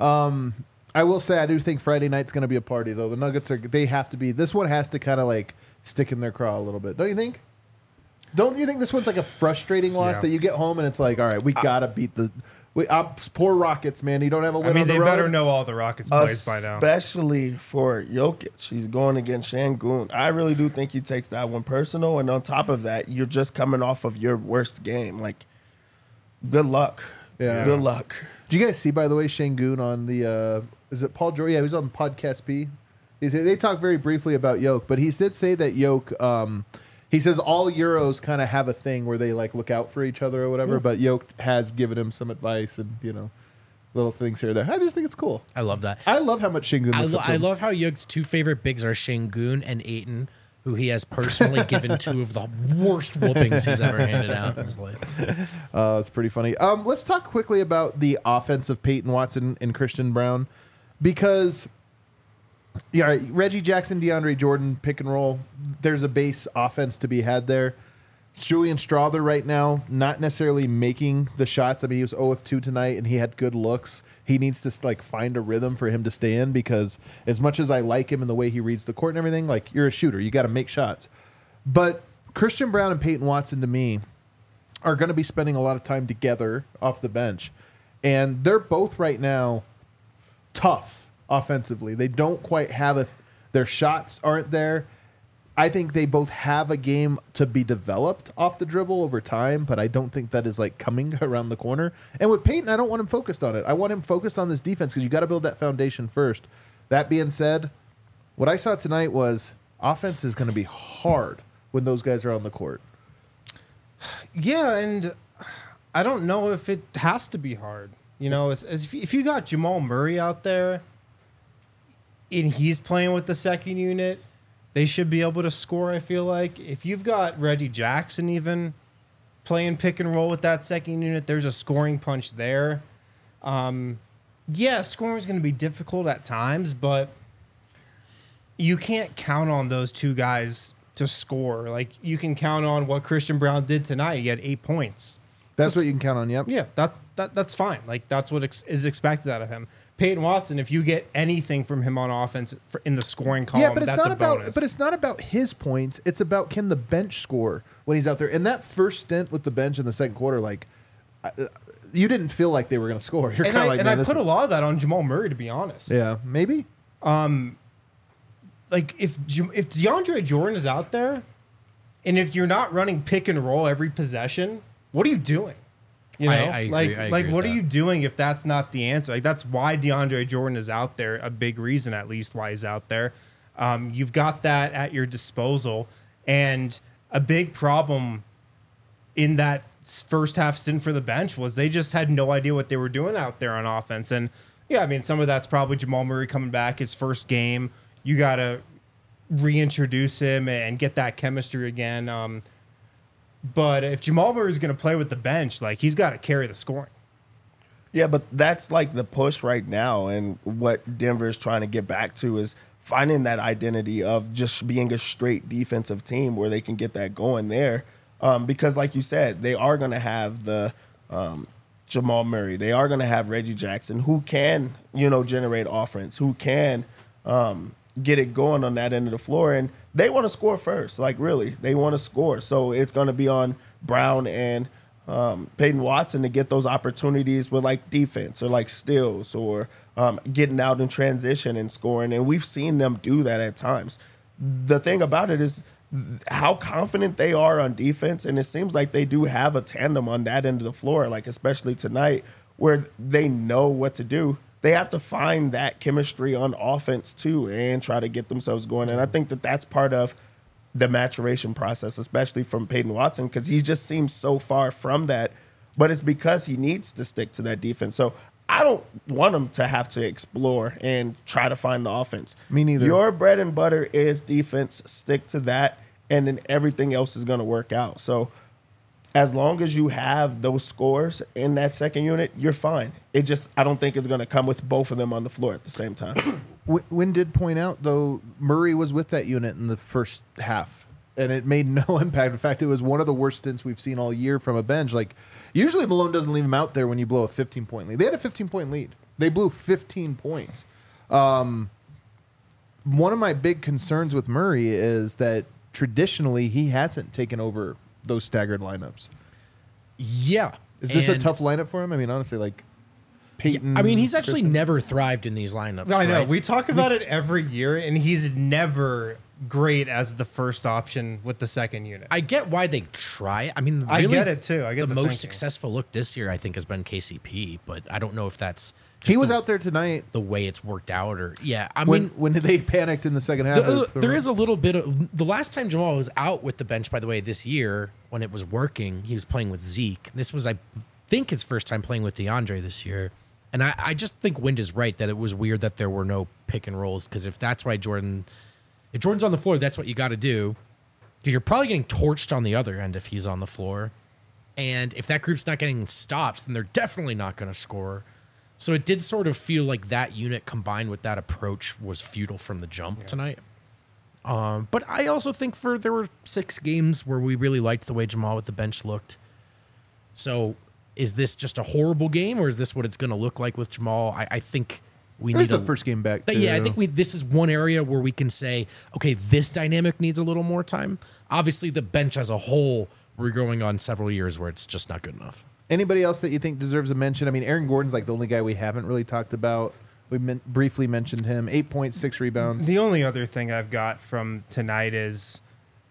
I will say I do think Friday night's going to be a party, though. The Nuggets they have to be. This one has to kind of stick in their craw a little bit. Don't you think? Don't you think this one's a frustrating loss that you get home and it's all right, we got to beat the poor Rockets, man. You don't have a win on the they road. better know all the Rockets plays by now. Especially for Jokic. He's going against Şengün. I really do think he takes that one personal. And on top of that, you're just coming off of your worst game. Good luck. Yeah. Good luck. Did you guys see, by the way, Şengün on the is it Paul George? Yeah, he was on Podcast P. They talked very briefly about Yoke, but he did say that Yoke he says all Euros kind of have a thing where they look out for each other or whatever, but Yoke has given him some advice and, little things here and there. I just think it's cool. I love that. I love how much Şengün looks up to I him. love how Yoke's 2 favorite bigs are Şengün and Ayton, who he has personally given 2 of the worst whoopings he's ever handed out in his life. It's pretty funny. Let's talk quickly about the offense of Peyton Watson and Christian Brown because Reggie Jackson, DeAndre Jordan, pick and roll. There's a base offense to be had there. Julian Strawther right now, not necessarily making the shots. I mean, he was 0 of 2 tonight, and he had good looks. He needs to find a rhythm for him to stay in because as much as I like him and the way he reads the court and everything, you're a shooter. You got to make shots. But Christian Brown and Peyton Watson, to me, are going to be spending a lot of time together off the bench. And they're both right now tough offensively. They don't quite have their shots aren't there. I think they both have a game to be developed off the dribble over time, but I don't think that is coming around the corner. And with Peyton, I don't want him focused on it. I want him focused on this defense because you got to build that foundation first. That being said, what I saw tonight was offense is going to be hard when those guys are on the court. Yeah, and I don't know if it has to be hard. If you got Jamal Murray out there and he's playing with the second unit, they should be able to score, I feel like. If you've got Reggie Jackson even playing pick and roll with that second unit, there's a scoring punch there. Scoring is going to be difficult at times, but you can't count on those 2 guys to score. You can count on what Christian Brown did tonight. He had 8 points. That's what you can count on, yep. Yeah, that's fine. That's what is expected out of him. Peyton Watson, if you get anything from him on offense in the scoring column, but it's that's not a bonus. But it's not about his points. It's about can the bench score when he's out there. And that first stint with the bench in the second quarter, you didn't feel like they were going to score. You're And kind of like, I put a lot of that on Jamal Murray, to be honest. Yeah, maybe. If DeAndre Jordan is out there, and if you're not running pick and roll every possession, what are you doing? You know, I agree. I agree what with are you that. doing if that's not the answer? Like, that's why DeAndre Jordan is out there. A big reason, at least, why he's out there. You've got that at your disposal, and a big problem in that first half stint for the bench was they just had no idea what they were doing out there on offense. And yeah, I mean, some of that's probably Jamal Murray coming back his first game. You got to reintroduce him and get that chemistry again. But if Jamal Murray is going to play with the bench, like, he's got to carry the scoring. Yeah, but that's like the push right now, and what Denver is trying to get back to is finding that identity of just being a straight defensive team where they can get that going there. Because like you said, they are going to have the Jamal Murray. They are going to have Reggie Jackson, who can, generate offense, who can get it going on that end of the floor. And they want to score first. Like, really, they want to score. So it's going to be on Brown and Peyton Watson to get those opportunities with, like, defense or, like, steals or getting out in transition and scoring. And we've seen them do that at times. The thing about it is how confident they are on defense, and it seems like they do have a tandem on that end of the floor, like especially tonight, where they know what to do. They have to find that chemistry on offense too and try to get themselves going. And I think that that's part of the maturation process, especially from Peyton Watson, because he just seems so far from that. But it's because he needs to stick to that defense. So I don't want him to have to explore and try to find the offense. Me neither. Your bread and butter is defense. Stick to that, and then everything else is going to work out. So as long as you have those scores in that second unit, you're fine. I don't think it's going to come with both of them on the floor at the same time. Wynn did point out, though, Murray was with that unit in the first half, and it made no impact. In fact, it was one of the worst stints we've seen all year from a bench. Like, usually Malone doesn't leave him out there when you blow a 15-point lead. They had a 15-point lead. They blew 15 points. One of my big concerns with Murray is that traditionally he hasn't taken over those staggered lineups. Yeah. Is this a And- tough lineup for him? I mean, honestly, like Peyton. I mean, he's actually never thrived in these lineups. I know. right? We talk about it every year, and he's never great as the first option with the second unit. I get why they try. I mean, I really, get it, too. I get the the most thinking. successful look this year, I think, has been KCP, but I don't know if that's just he was the, out there tonight the way it's worked out, or I when mean, when they panicked in the second half. there is a little bit of the last time Jamal was out with the bench, by the way, this year when it was working, he was playing with Zeke. This was, I think, his first time playing with DeAndre this year. And I just think Wind is right that it was weird that there were no pick and rolls, because if that's why if Jordan's on the floor, that's what you got to do. Because you're probably getting torched on the other end if he's on the floor. And if that group's not getting stops, then they're definitely not going to score. So it did sort of feel like that unit combined with that approach was futile from the jump tonight. But I also think there were 6 games where we really liked the way Jamal with the bench looked. So is this just a horrible game, or is this what it's going to look like with Jamal? I think we It need was the first game back. Yeah, I too. think this is one area where we can say, okay, this dynamic needs a little more time. Obviously, the bench as a whole, we're going on several years where it's just not good enough. Anybody else that you think deserves a mention? I mean, Aaron Gordon's like the only guy we haven't really talked about. We briefly mentioned him. 8.6 rebounds. The only other thing I've got from tonight is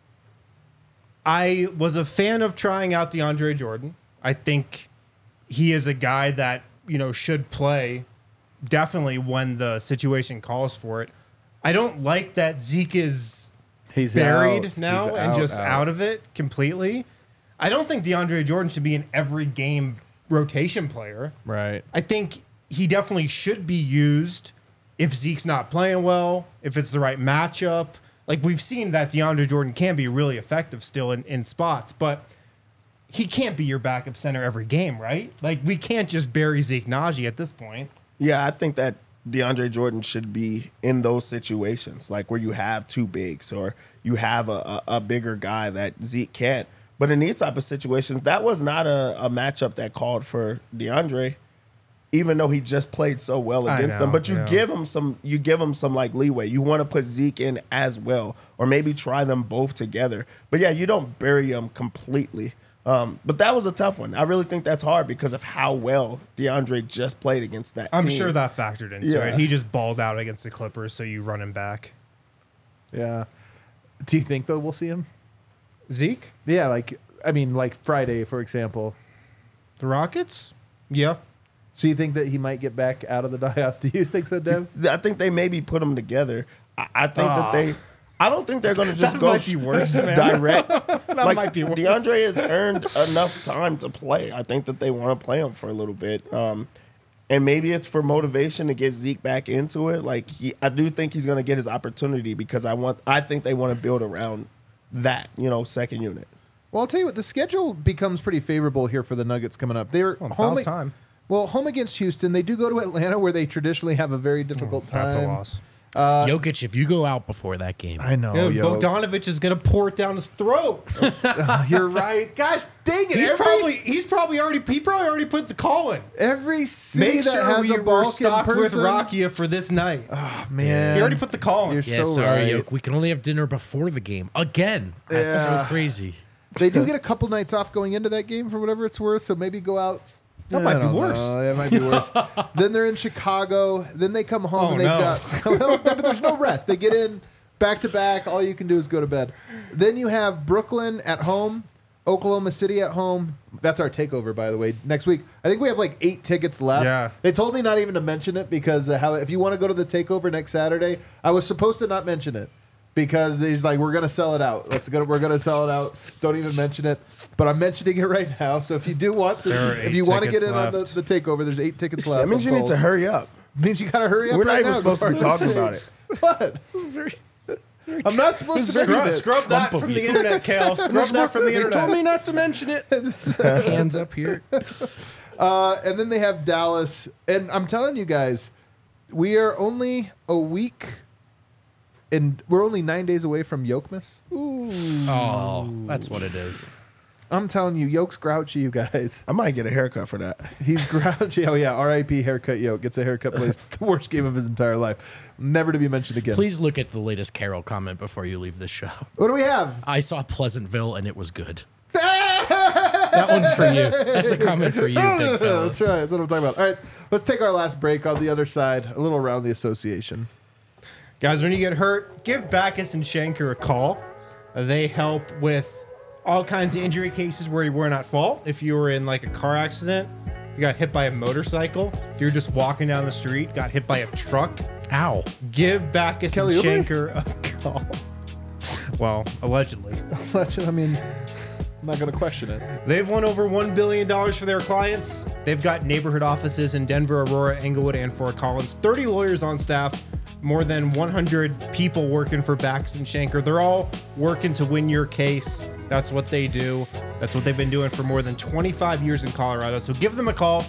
I was a fan of trying out DeAndre Jordan. I think he is a guy that, should play definitely when the situation calls for it. I don't like that Zeke is He's buried out. now He's and just out of it completely. I don't think DeAndre Jordan should be an every game rotation player. Right. I think he definitely should be used if Zeke's not playing well, if it's the right matchup. Like, we've seen that DeAndre Jordan can be really effective still in spots, but he can't be your backup center every game, right? Like, we can't just bury Zeke Naji at this point. Yeah, I think that DeAndre Jordan should be in those situations, like where you have 2 bigs or you have a bigger guy that Zeke can't. But in these type of situations, that was not a matchup that called for DeAndre, even though he just played so well against them. But you give him some like leeway. You want to put Zeke in as well, or maybe try them both together. But yeah, you don't bury him completely. But that was a tough one. I really think that's hard because of how well DeAndre just played against that I'm team. sure that factored into Yeah. it. He just balled out against the Clippers, so you run him back. Yeah. Do you think, though, we'll see him? Zeke? Yeah, like Friday, for example. The Rockets? Yeah. So you think that he might get back out of the doghouse? Do you think so, Dev? I think they maybe put them together. I think that they. I don't think they're going to just That go might be worse, man. direct. That might be worse. DeAndre has earned enough time to play. I think that they want to play him for a little bit. And maybe it's for motivation to get Zeke back into it. Like I do think he's going to get his opportunity because I think they want to build around that, second unit. Well, I'll tell you what, the schedule becomes pretty favorable here for the Nuggets coming up. They're home time. Well, home against Houston. They do go to Atlanta, where they traditionally have a very difficult time. That's a loss. Jokic, if you go out before that game, I know. Dude, Bogdanovich is going to pour it down his throat. You're right. Gosh, dang it! He probably already put the call in. Every city Make that sure has a we're Balkan stocked with person. Rakia for this night. Oh man, He already put the call in. You're yeah, so sorry, right. Yoke. We can only have dinner before the game again. That's Yeah. so crazy. They do get a couple nights off going into that game for whatever it's worth. So maybe go out. That might be worse. It might be worse. Then they're in Chicago. Then they come home Oh, and they've no. got. Well, but there's no rest. They get in back to back. All you can do is go to bed. Then you have Brooklyn at home, Oklahoma City at home. That's our takeover, by the way. Next week, I think we have like 8 tickets left. Yeah. They told me not even to mention it because if you want to go to the takeover next Saturday, I was supposed to not mention it. Because he's like, we're gonna sell it out. We're gonna sell it out. Don't even mention it. But I'm mentioning it right now. So if you do want, if you want to get in on the takeover, there's 8 tickets left. That means you need to hurry up. Means you gotta hurry up. We're not right even now. supposed to be talking about it. What? I'm not supposed to mention it. Scrub that from the internet, Kale. Scrub that from the They told internet. me not to mention it. Hands up here. And then they have Dallas, and I'm telling you guys, we are only a week. And we're only 9 days away from Yokemas. Oh, that's what it is. I'm telling you, Yoke's grouchy, you guys. I might get a haircut for that. He's grouchy. Oh, yeah. R.I.P. Haircut Yoke. Gets a haircut, plays the worst game of his entire life. Never to be mentioned again. Please look at the latest Carol comment before you leave this show. What do we have? I saw Pleasantville and it was good. That one's for you. That's a comment for you, big fella. That's right. That's what I'm talking about. All right. Let's take our last break on the other side, a little around the association. Guys, when you get hurt, give Backus and Shanker a call. They help with all kinds of injury cases where you weren't at fault. If you were in like a car accident, you got hit by a motorcycle, if you're just walking down the street, got hit by a truck, Ow. give Backus Kelly and Oubre? Shanker a call. Well, allegedly. I mean, I'm not going to question it. They've won over $1 billion for their clients. They've got neighborhood offices in Denver, Aurora, Englewood, and Fort Collins. 30 lawyers on staff, more than 100 people working for Backus and Shanker. They're all working to win your case. That's what they do. That's what they've been doing for more than 25 years in Colorado. So give them a call,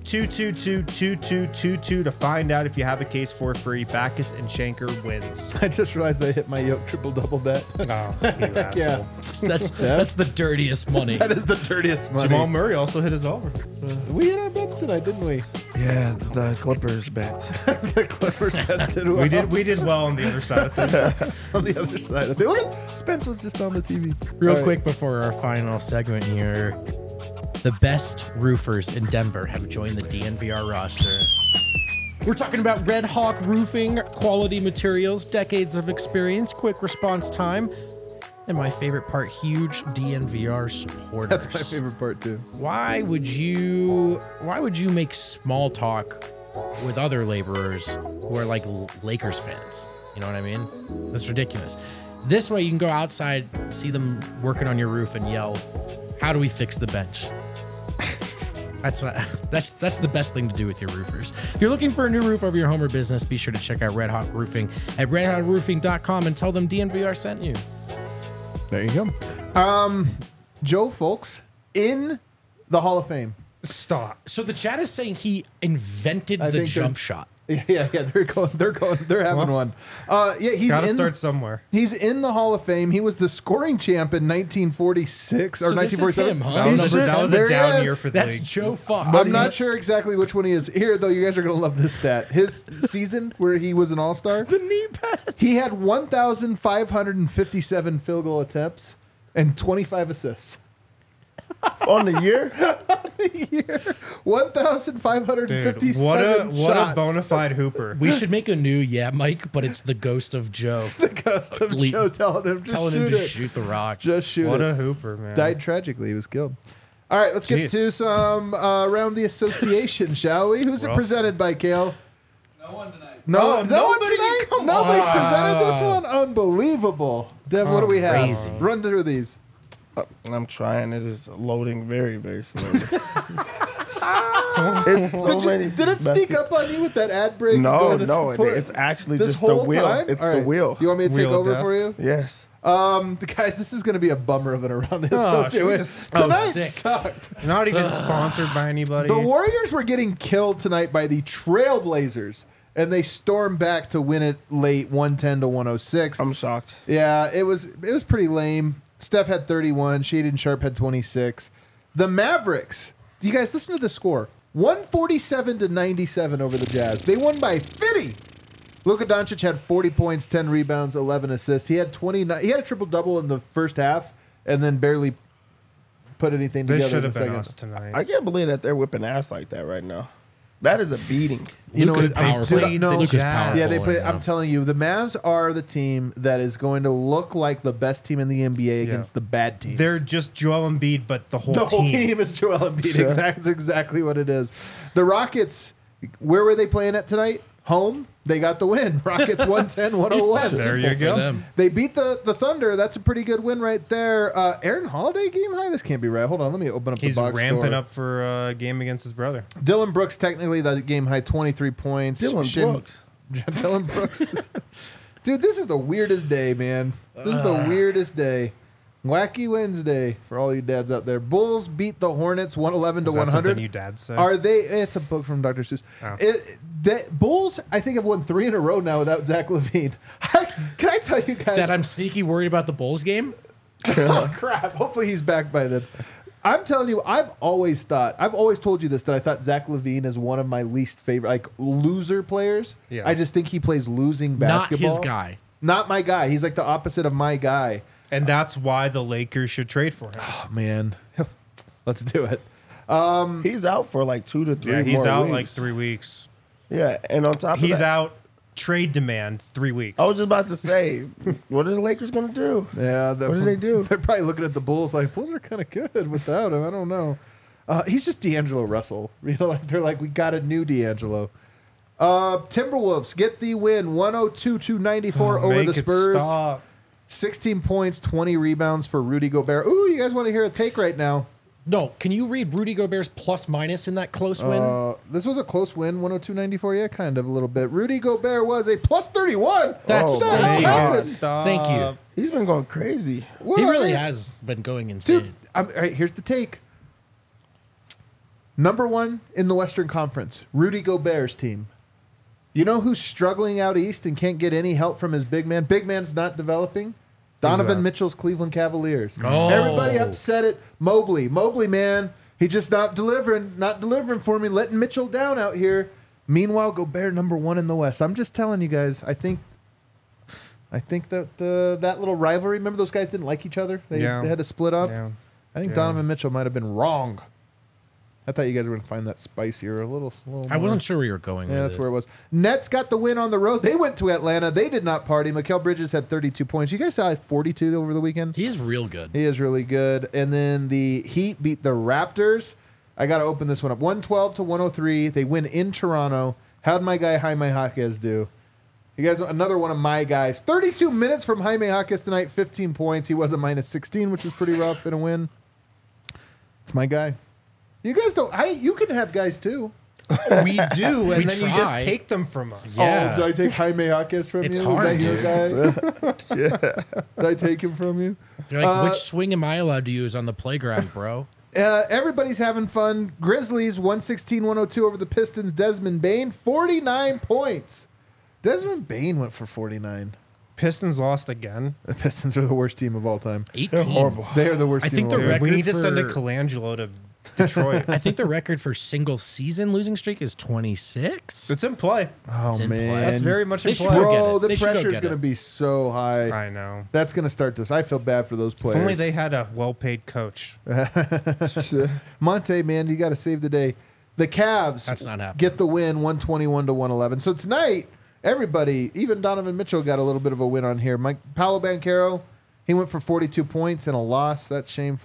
222-2222 to find out if you have a case for free. Backus and Shanker wins. I just realized I hit my Yoke triple-double bet. Oh, you asshole. That's the dirtiest money. That is the dirtiest money. Jamal Murray also hit his over. We hit our bets tonight, didn't we? Yeah, the Clippers bet. The Clippers bets did well. We did well on the other side of things. On the other side of it. Look at Spence was just on the TV. Real All right. quick before our final segment here, the best roofers in Denver have joined the DNVR roster. We're talking about Red Hawk Roofing, quality materials, decades of experience, quick response time, and my favorite part, huge DNVR supporters. That's my favorite part too. Why would you make small talk with other laborers who are like Lakers fans? You know what I mean? That's ridiculous. This way you can go outside, see them working on your roof and yell, "How do we fix the bench?" That's the best thing to do with your roofers. If you're looking for a new roof over your home or business, be sure to check out Red Hawk Roofing at redhawkroofing.com and tell them DNVR sent you. There you go. Joe Folks in the Hall of Fame. Stop. So the chat is saying he invented I the think jump shot. Yeah. They're having one. He's Gotta in. start somewhere. He's in the Hall of Fame. He was the scoring champ in 1946 or So this is 1947. him, huh? That was, He's that was there a he down is. year for the That's league. Joe Fox. I'm not sure exactly which one he is. Here, though, you guys are going to love this stat. His season where he was an all-star, The knee pads. he had 1,557 field goal attempts and 25 assists. On the year? Year 1,557 Dude, what a shots. bona fide hooper. We should make a new Mike, but it's the ghost of Joe The ghost of Le- Joe telling him to telling shoot him to it. shoot the rock. Just shoot What it. a hooper, man. Died tragically. He was killed. All right, let's get Jeez. to some around the association, shall we? Who's it Rough. presented by, Kale? No one tonight. No, Oh, no one nobody? tonight? Come Nobody's on. presented this one? Unbelievable. Dev, what do we have? Crazy. Run through these. I'm trying. It is loading very, very slowly. It's so many. Did it sneak baskets. up on you with that ad break? No, going to no. support- It's actually this just the whole wheel. time? It's All the right. wheel. You want me to take Wheel of over death. for you? Yes. Guys, this is going to be a bummer of an around the Oh, association. should we just- Tonight sick. sucked. Not even sponsored by anybody. The Warriors were getting killed tonight by the Trailblazers, and they stormed back to win it late, 110 to 106. I'm shocked. Yeah, it was pretty lame. Steph had 31. Shaden Sharp had 26. The Mavericks. You guys listen to the score: 147 to 97 over the Jazz. They won by 50. Luka Doncic had 40 points, 10 rebounds, 11 assists. He had 29. He had a triple double in the first half, and then barely put anything This together. should in have the been second. us tonight. I can't believe that they're whipping ass like that right now. That is a beating. You know Luka's what? I'm- powerful. dude, no, the Luka's Jazz. powerful. Yeah, they play. Yeah. I'm telling you, the Mavs are the team that is going to look like the best team in the NBA against the bad teams. They're just Joel Embiid, but the whole the team. whole team is Joel Embiid. Sure. That's exactly what it is. The Rockets, where were they playing at tonight? Home. They got the win. Rockets 110, 101. It's that There simple you for go. them. They beat the Thunder. That's a pretty good win right there. Aaron Holiday game high? This can't be right. Hold on. Let me open up He's the box ramping score. up for a game against his brother. Dylan Brooks, technically, the game high, 23 points. Dylan Brooks. Dylan Brooks. Dude, this is the weirdest day, man. This is the weirdest day. Wacky Wednesday for all you dads out there. Bulls beat the Hornets 111 to Is that 100. something you dad said? Are they? It's a book from Dr. Seuss. Oh. Bulls, I think, have won 3 in a row now without Zach LaVine. Can I tell you guys? That I'm sneaky worried about the Bulls game. Oh, crap. Hopefully he's back by then. I'm telling you, I've always told you this, that I thought Zach LaVine is one of my least favorite, like, loser players. Yeah. I just think he plays losing Not basketball. his guy. Not my guy. He's like the opposite of my guy. And that's why the Lakers should trade for him. Oh, man. Let's do it. He's out for like 2 to 3 Yeah, he's more out weeks. like 3 weeks. Yeah, and on top of He's that, out trade demand 3 weeks. I was just about to say, what are the Lakers going to do? Yeah. What do they do? They're probably looking at the Bulls like, Bulls are kind of good without him. I don't know. He's just D'Angelo Russell. You know, like they're like, we got a new D'Angelo. Timberwolves get the win, 102-94 over Make the it Spurs. stop. 16 points, 20 rebounds for Rudy Gobert. Ooh, you guys want to hear a take right now? No, can you read Rudy Gobert's plus minus in that close win? This was a close win, 102-94. Yeah, kind of a little bit. Rudy Gobert was a plus 31. That's What the thank hell you. happened? Stop. Thank you. He's been going crazy. What He are really they- has been going insane. Dude, all right, here's the take. Number 1 in the Western Conference, Rudy Gobert's team. You know who's struggling out east and can't get any help from his big man? Big man's not developing. Donovan that? Mitchell's Cleveland Cavaliers. Oh. Everybody upset it. Mobley, man, he just not delivering for me, letting Mitchell down out here. Meanwhile, Gobert number 1 in the West. I'm just telling you guys, I think that that little rivalry, remember those guys didn't like each other? They had to split up. Yeah. I think Yeah. Donovan Mitchell might have been wrong. I thought you guys were going to find that spicier, a little I more. wasn't sure where you were going Yeah, with that's it. where it was. Nets got the win on the road. They went to Atlanta. They did not party. Mikal Bridges had 32 points. You guys saw 42 over the weekend? He's real good. He is really good. And then the Heat beat the Raptors. I got to open this one up. 112 to 103. They win in Toronto. How'd my guy Jaime Jaquez do? You guys, another one of my guys. 32 minutes from Jaime Jaquez tonight, 15 points. He was a minus 16, which was pretty rough in a win. It's my guy. You guys don't. You can have guys too. We do, and We then you just try. take them from us. Yeah. Oh, did I take Jaime Jaquez from It's you? hard, Is that your guy? Did I take him from you? You're like, which swing am I allowed to use on the playground, bro? Everybody's having fun. Grizzlies 116-102 over the Pistons. Desmond Bain 49 points. Desmond Bain went for 49. Pistons lost again. The Pistons are the worst team of all time. 18. horrible. They are the worst I team think of the all time. We record need to send a for- Colangelo to Detroit. I think the record for single season losing streak is 26. It's in play. Oh It's in play. man, That's very much They in should play. go get bro. it. The They should go pressure is get going to it. be so high. I know. That's going to start this. I feel bad for those If players. only they had a well-paid coach. Monte, man, you got to save the day. The Cavs That's not happening. get the win 121 to 111. So tonight, everybody, even Donovan Mitchell got a little bit of a win on here. Paolo Banchero, he went for 42 points and a loss. That's shameful.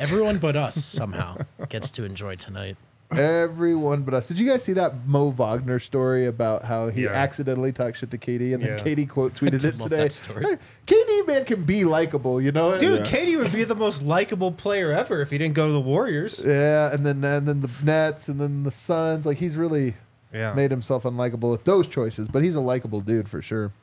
Everyone but us somehow gets to enjoy tonight. Everyone but us. Did you guys see that Mo Wagner story about how he Yeah. accidentally talked shit to KD and then Yeah. KD quote tweeted it love today? that story. KD man can be likable, you know? Dude, Katie would be the most likable player ever if he didn't go to the Warriors. Yeah, and then the Nets and then the Suns. Like he's really Yeah. made himself unlikable with those choices, but he's a likable dude for sure.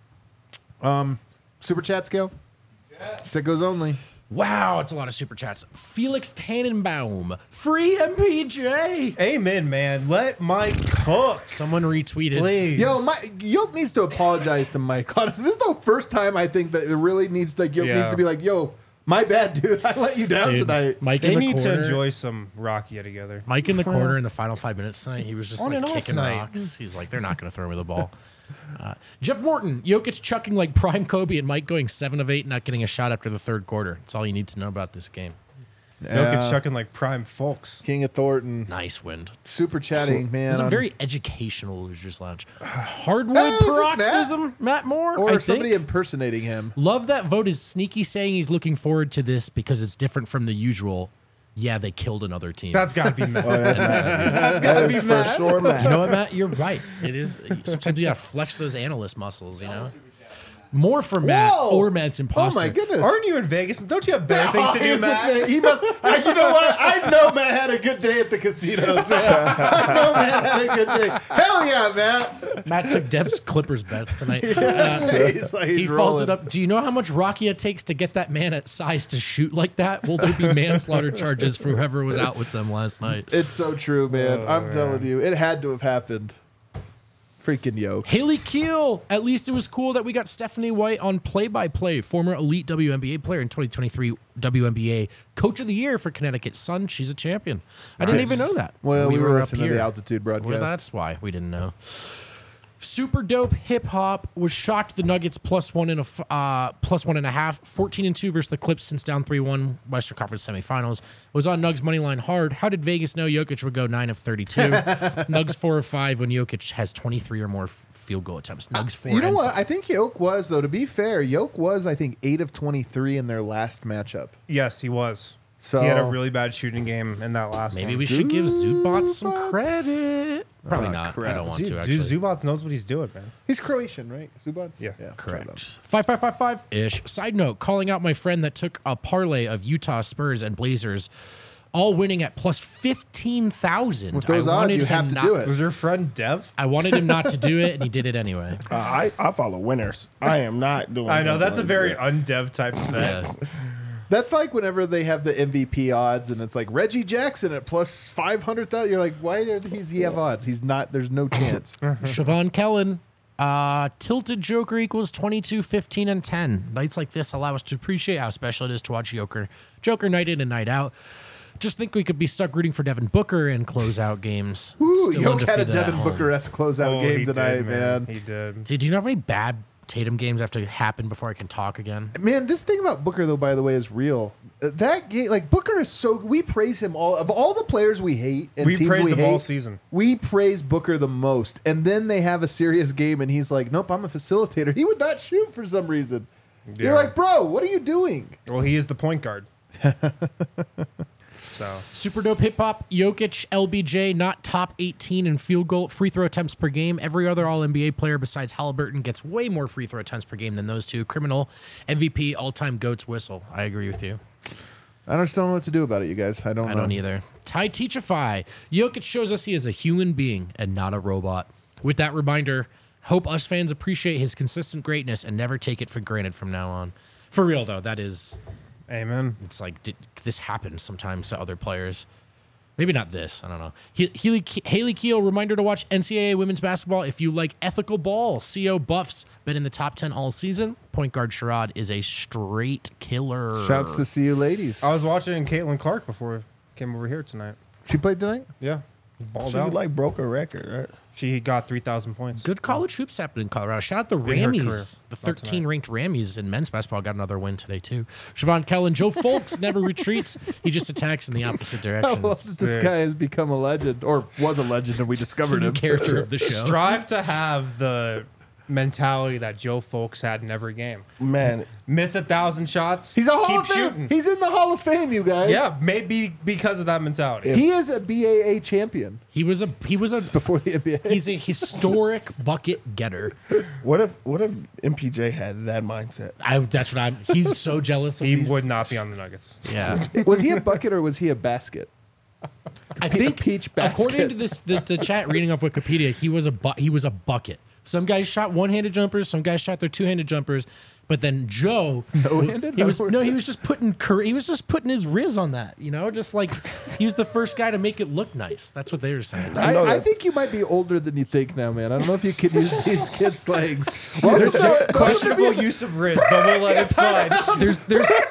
Super chat scale? Sickos only. Wow, it's a lot of super chats. Felix Tannenbaum, free MPJ. Amen, man. Let Mike cook. Someone retweeted. Please. Yo, Yoke needs to apologize to Mike. Honestly, this is the first time I think that it really needs Yoke Yeah. needs to be like, yo, my bad, dude. I let you down Dude, tonight. Mike They in the need corner. to enjoy some Rakia together. Mike in the corner in the final 5 minutes tonight. He was just On like and off kicking night. rocks. He's like, they're not going to throw me the ball. Jeff Morton, Jokic chucking like prime Kobe, and Mike going 7 of 8, not getting a shot after the third quarter. That's all you need to know about this game. Jokic chucking like prime folks. King of Thornton. Nice wind. Super chatting, man. It was a on- very educational Losers Lounge. Hardwood Hey, is this paroxysm, Matt Moore. or I somebody think. impersonating him. Love that vote is sneaky saying he's looking forward to this because it's different from the usual. Yeah, they killed another team. That's got to be Matt. That gotta is be for Matt. sure, Matt. You know what, Matt? You're right. It is. Sometimes you gotta flex those analyst muscles. You know, more for Matt Whoa. or Matt's Oh imposter. my goodness. Aren't you in Vegas? Don't you have better things to do, Is it, Matt? man? He must. You know what? I know Matt had a good day at the casinos, man. I know Matt had a good day. Hell yeah, Matt. Matt took Dev's Clippers bets tonight. He's like, He he's follows rolling. it up. Do you know how much Rakia takes to get that man at size to shoot like that? Will there be manslaughter charges for whoever was out with them last night? It's so true, man. I'm telling you, it had to have happened. Freaking Yoke. Haley Keel. At least it was cool that we got Stephanie White on play-by-play, former elite WNBA player in 2023 WNBA Coach of the Year for Connecticut Sun. She's a champion. I didn't even know that. Well, we were up listening to here. the altitude broadcast. Well, that's why we didn't know. Super dope hip hop was shocked the Nuggets +1.5, 14-2 versus the Clips since down 3-1 Western Conference semifinals. Was on Nugs money line hard. How did Vegas know Jokic would go 9 of 32? Nugs 4 of 5 when Jokic has 23 or more field goal attempts. Nugs 4. You know and what? 5. I think Yoke was, though, to be fair, Yoke was, I think, 8 of 23 in their last matchup. Yes, he was. So He had a really bad shooting game in that last Maybe one. we should give Zubac some Zubats? credit. Probably Oh, not. crap. I don't want to Dude, actually. Zubac knows what he's doing, man. He's Croatian, right? Zubats? Yeah. Correct. 5555-ish. Side note, calling out my friend that took a parlay of Utah Spurs and Blazers all winning at plus 15,000. With those I odds, wanted you him have to not- do it. Was your friend Dev? I wanted him not to do it, and he did it anyway. I follow winners. I am not doing. I know, that's a something very like that. undev type of bet. Yeah. That's like whenever they have the MVP odds and it's like Reggie Jackson at plus 500,000. You're like, why does he have odds? He's not, there's no chance. Siobhan Kellen. Tilted Joker equals 22, 15, and 10. Nights like this allow us to appreciate how special it is to watch Joker night in and night out. Just think we could be stuck rooting for Devin Booker in closeout games. Ooh, Still Yoke had a undefeated at Devin home. Booker-esque closeout Oh, game he tonight, did, man. He did. Dude, do you know how many bad Tatum games have to happen before I can talk again? Man, this thing about Booker, though, by the way, is real. That game, like Booker is so. We praise him all of all the players we hate and We teams praised we him hate. all season. We praise Booker the most, and then they have a serious game, and he's like, "Nope, I'm a facilitator." He would not shoot for some reason. You're Yeah. like, "Bro, what are you doing?" Well, he is the point guard. So Super dope hip hop. Jokic, LBJ, not top 18 in field goal free throw attempts per game. Every other All NBA player besides Halliburton gets way more free throw attempts per game than those two. Criminal, MVP, all time goats whistle. I agree with you. I just don't know what to do about it, you guys. I don't. I know. don't either. Ty Teachify. Jokic shows us he is a human being and not a robot. With that reminder, hope us fans appreciate his consistent greatness and never take it for granted from now on. For real though, that is. amen. It's like this happens sometimes to other players. Maybe not this. I don't know. Haley Keel, reminder to watch NCAA women's basketball if you like ethical ball. CO Buffs been in the top 10 all season. Point guard Sherrod is a straight killer. Shouts to see you, ladies. I was watching Caitlin Clark before I came over here tonight. She played tonight. Yeah. Balled She out. like broke a record, right? She got 3,000 points. Good college hoops happening in Colorado. Shout out the In her career. Rammies. The Not 13 tonight. ranked Rammies in men's basketball got another win today too. Siobhan Kellen, Joe Folks never retreats. He just attacks in the opposite I direction. love that this Yeah. guy has become a legend, or was a legend, and we discovered New him. character of the show. Strive to have the mentality that Joe Folks had in every game. Man, Miss 1,000 shots. He's a Hall keep of Fame. shooting. He's in the Hall of Fame, you guys. Yeah, maybe because of that mentality. He is a BAA champion He was a before the NBA. he's a historic bucket getter. what if MPJ had that mindset? He's so jealous of He these- would not be on the Nuggets. Yeah. Was he a bucket or was he a basket? I think peach basket. according to the chat reading off Wikipedia, he was a bucket. Some guys shot one-handed jumpers, some guys shot their two-handed jumpers, but then Joe No-handed? he was just putting his riz on that, just like he was the first guy to make it look nice. That's what they were saying. I think you might be older than you think now, man. I don't know if you could use these kids' slangs. Questionable use of Riz, but we'll let it slide. There's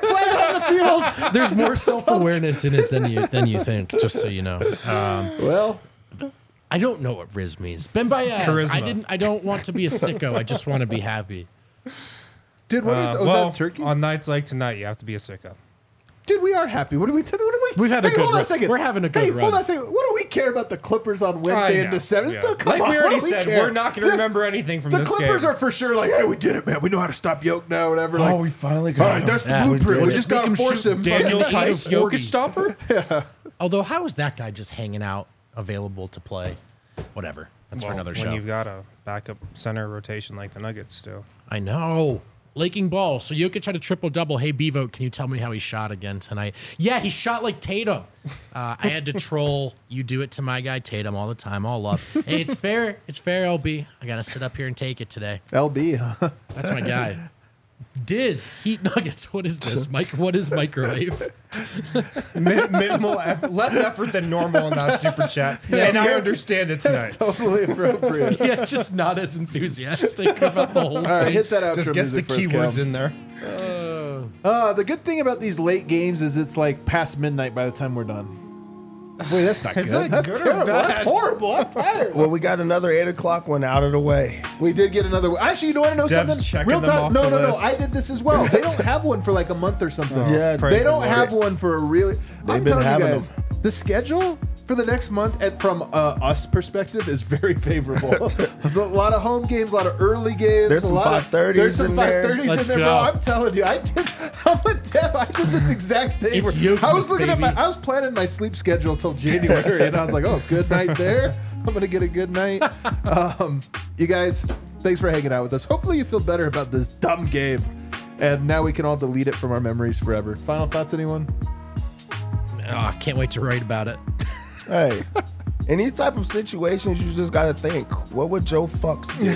there's more self-awareness in it than you think, just so you know. Well, I don't know what Riz means. Ben Baez. Charisma. I don't want to be a sicko. I just want to be happy. dude, what is Well, that turkey? on nights like tonight, you have to be a sicko. Dude, we are happy. What do we? We've had a good hold on run. a second. We're having a good Hey, run. hold on a second. What do we care about the Clippers on Wednesday in know, December? yeah. Still, come Like on. we what already do we said, care? we're not going to remember anything from The this Clippers game. are for sure like, hey, we did it, man. We know how to stop Yoke now, whatever. Like, we finally all right, that's the blueprint. We just Make got to him force shoot him. Daniel fucking 8 of Tice, 40. Jokic stopper? Although, how is that guy just hanging out, available to play? Whatever. That's for another when show. you've got a backup center rotation like the Nuggets do. I know. Laking ball. So Jokic had a triple-double. Hey, Bevo, can you tell me how he shot again tonight? Yeah, he shot like Tatum. I had to troll. You do it to my guy Tatum all the time. All love. Hey, it's fair. It's fair, LB. I got to sit up here and take it today. LB, huh? That's my guy. Diz, Heat Nuggets. What is this? What is microwave? Minimal effort, less effort than normal in that super chat. And I understand it tonight. Totally appropriate. Yeah, just not as enthusiastic about the whole All right, thing. hit that outro Just gets the music first, keywords Cal. in there. The good thing about these late games is it's like past midnight by the time we're done. Wait, that's not Is good. that That's good or terrible. bad? That's horrible. I'm tired. Well, we got another 8 o'clock one out of the way. We did get another one. Actually, you want to know Dev's something? checking Real them time. off No, the no, no. list. I did this as well. They don't have one for like a month or something. Yeah, praise They the don't Lord. have one for a really. I'm been telling you having guys, the schedule for the next month, and from us perspective, is very favorable. There's a lot of home games, a lot of early games. There's a some lot of- 5:30s There's some in there. 5:30s in Let's there, go. bro. I'm telling you, I'm with Dev. I did this exact thing. It's where I was Jokic, looking at baby. I was planning my sleep schedule till January, and I was like, oh, good night there. I'm gonna get a good night. You guys, thanks for hanging out with us. Hopefully, you feel better about this dumb game, and now we can all delete it from our memories forever. Final thoughts, anyone? Oh, I can't wait to write about it. Hey, in these type of situations, you just got to think, what would Joe Fucks do?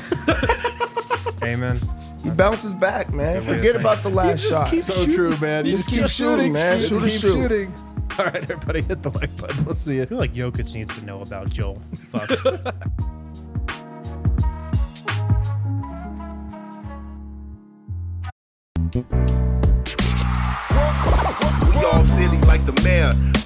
Amen. He bounces back, man. Good way to Forget think. about the last shot. So true, man. You You just just keep keep shooting, shooting, man. Just Shoot or keep shoot. shooting. All right, everybody, hit the like button. We'll see you. I feel like Jokic needs to know about Joel. Fucks. We all silly like the mayor.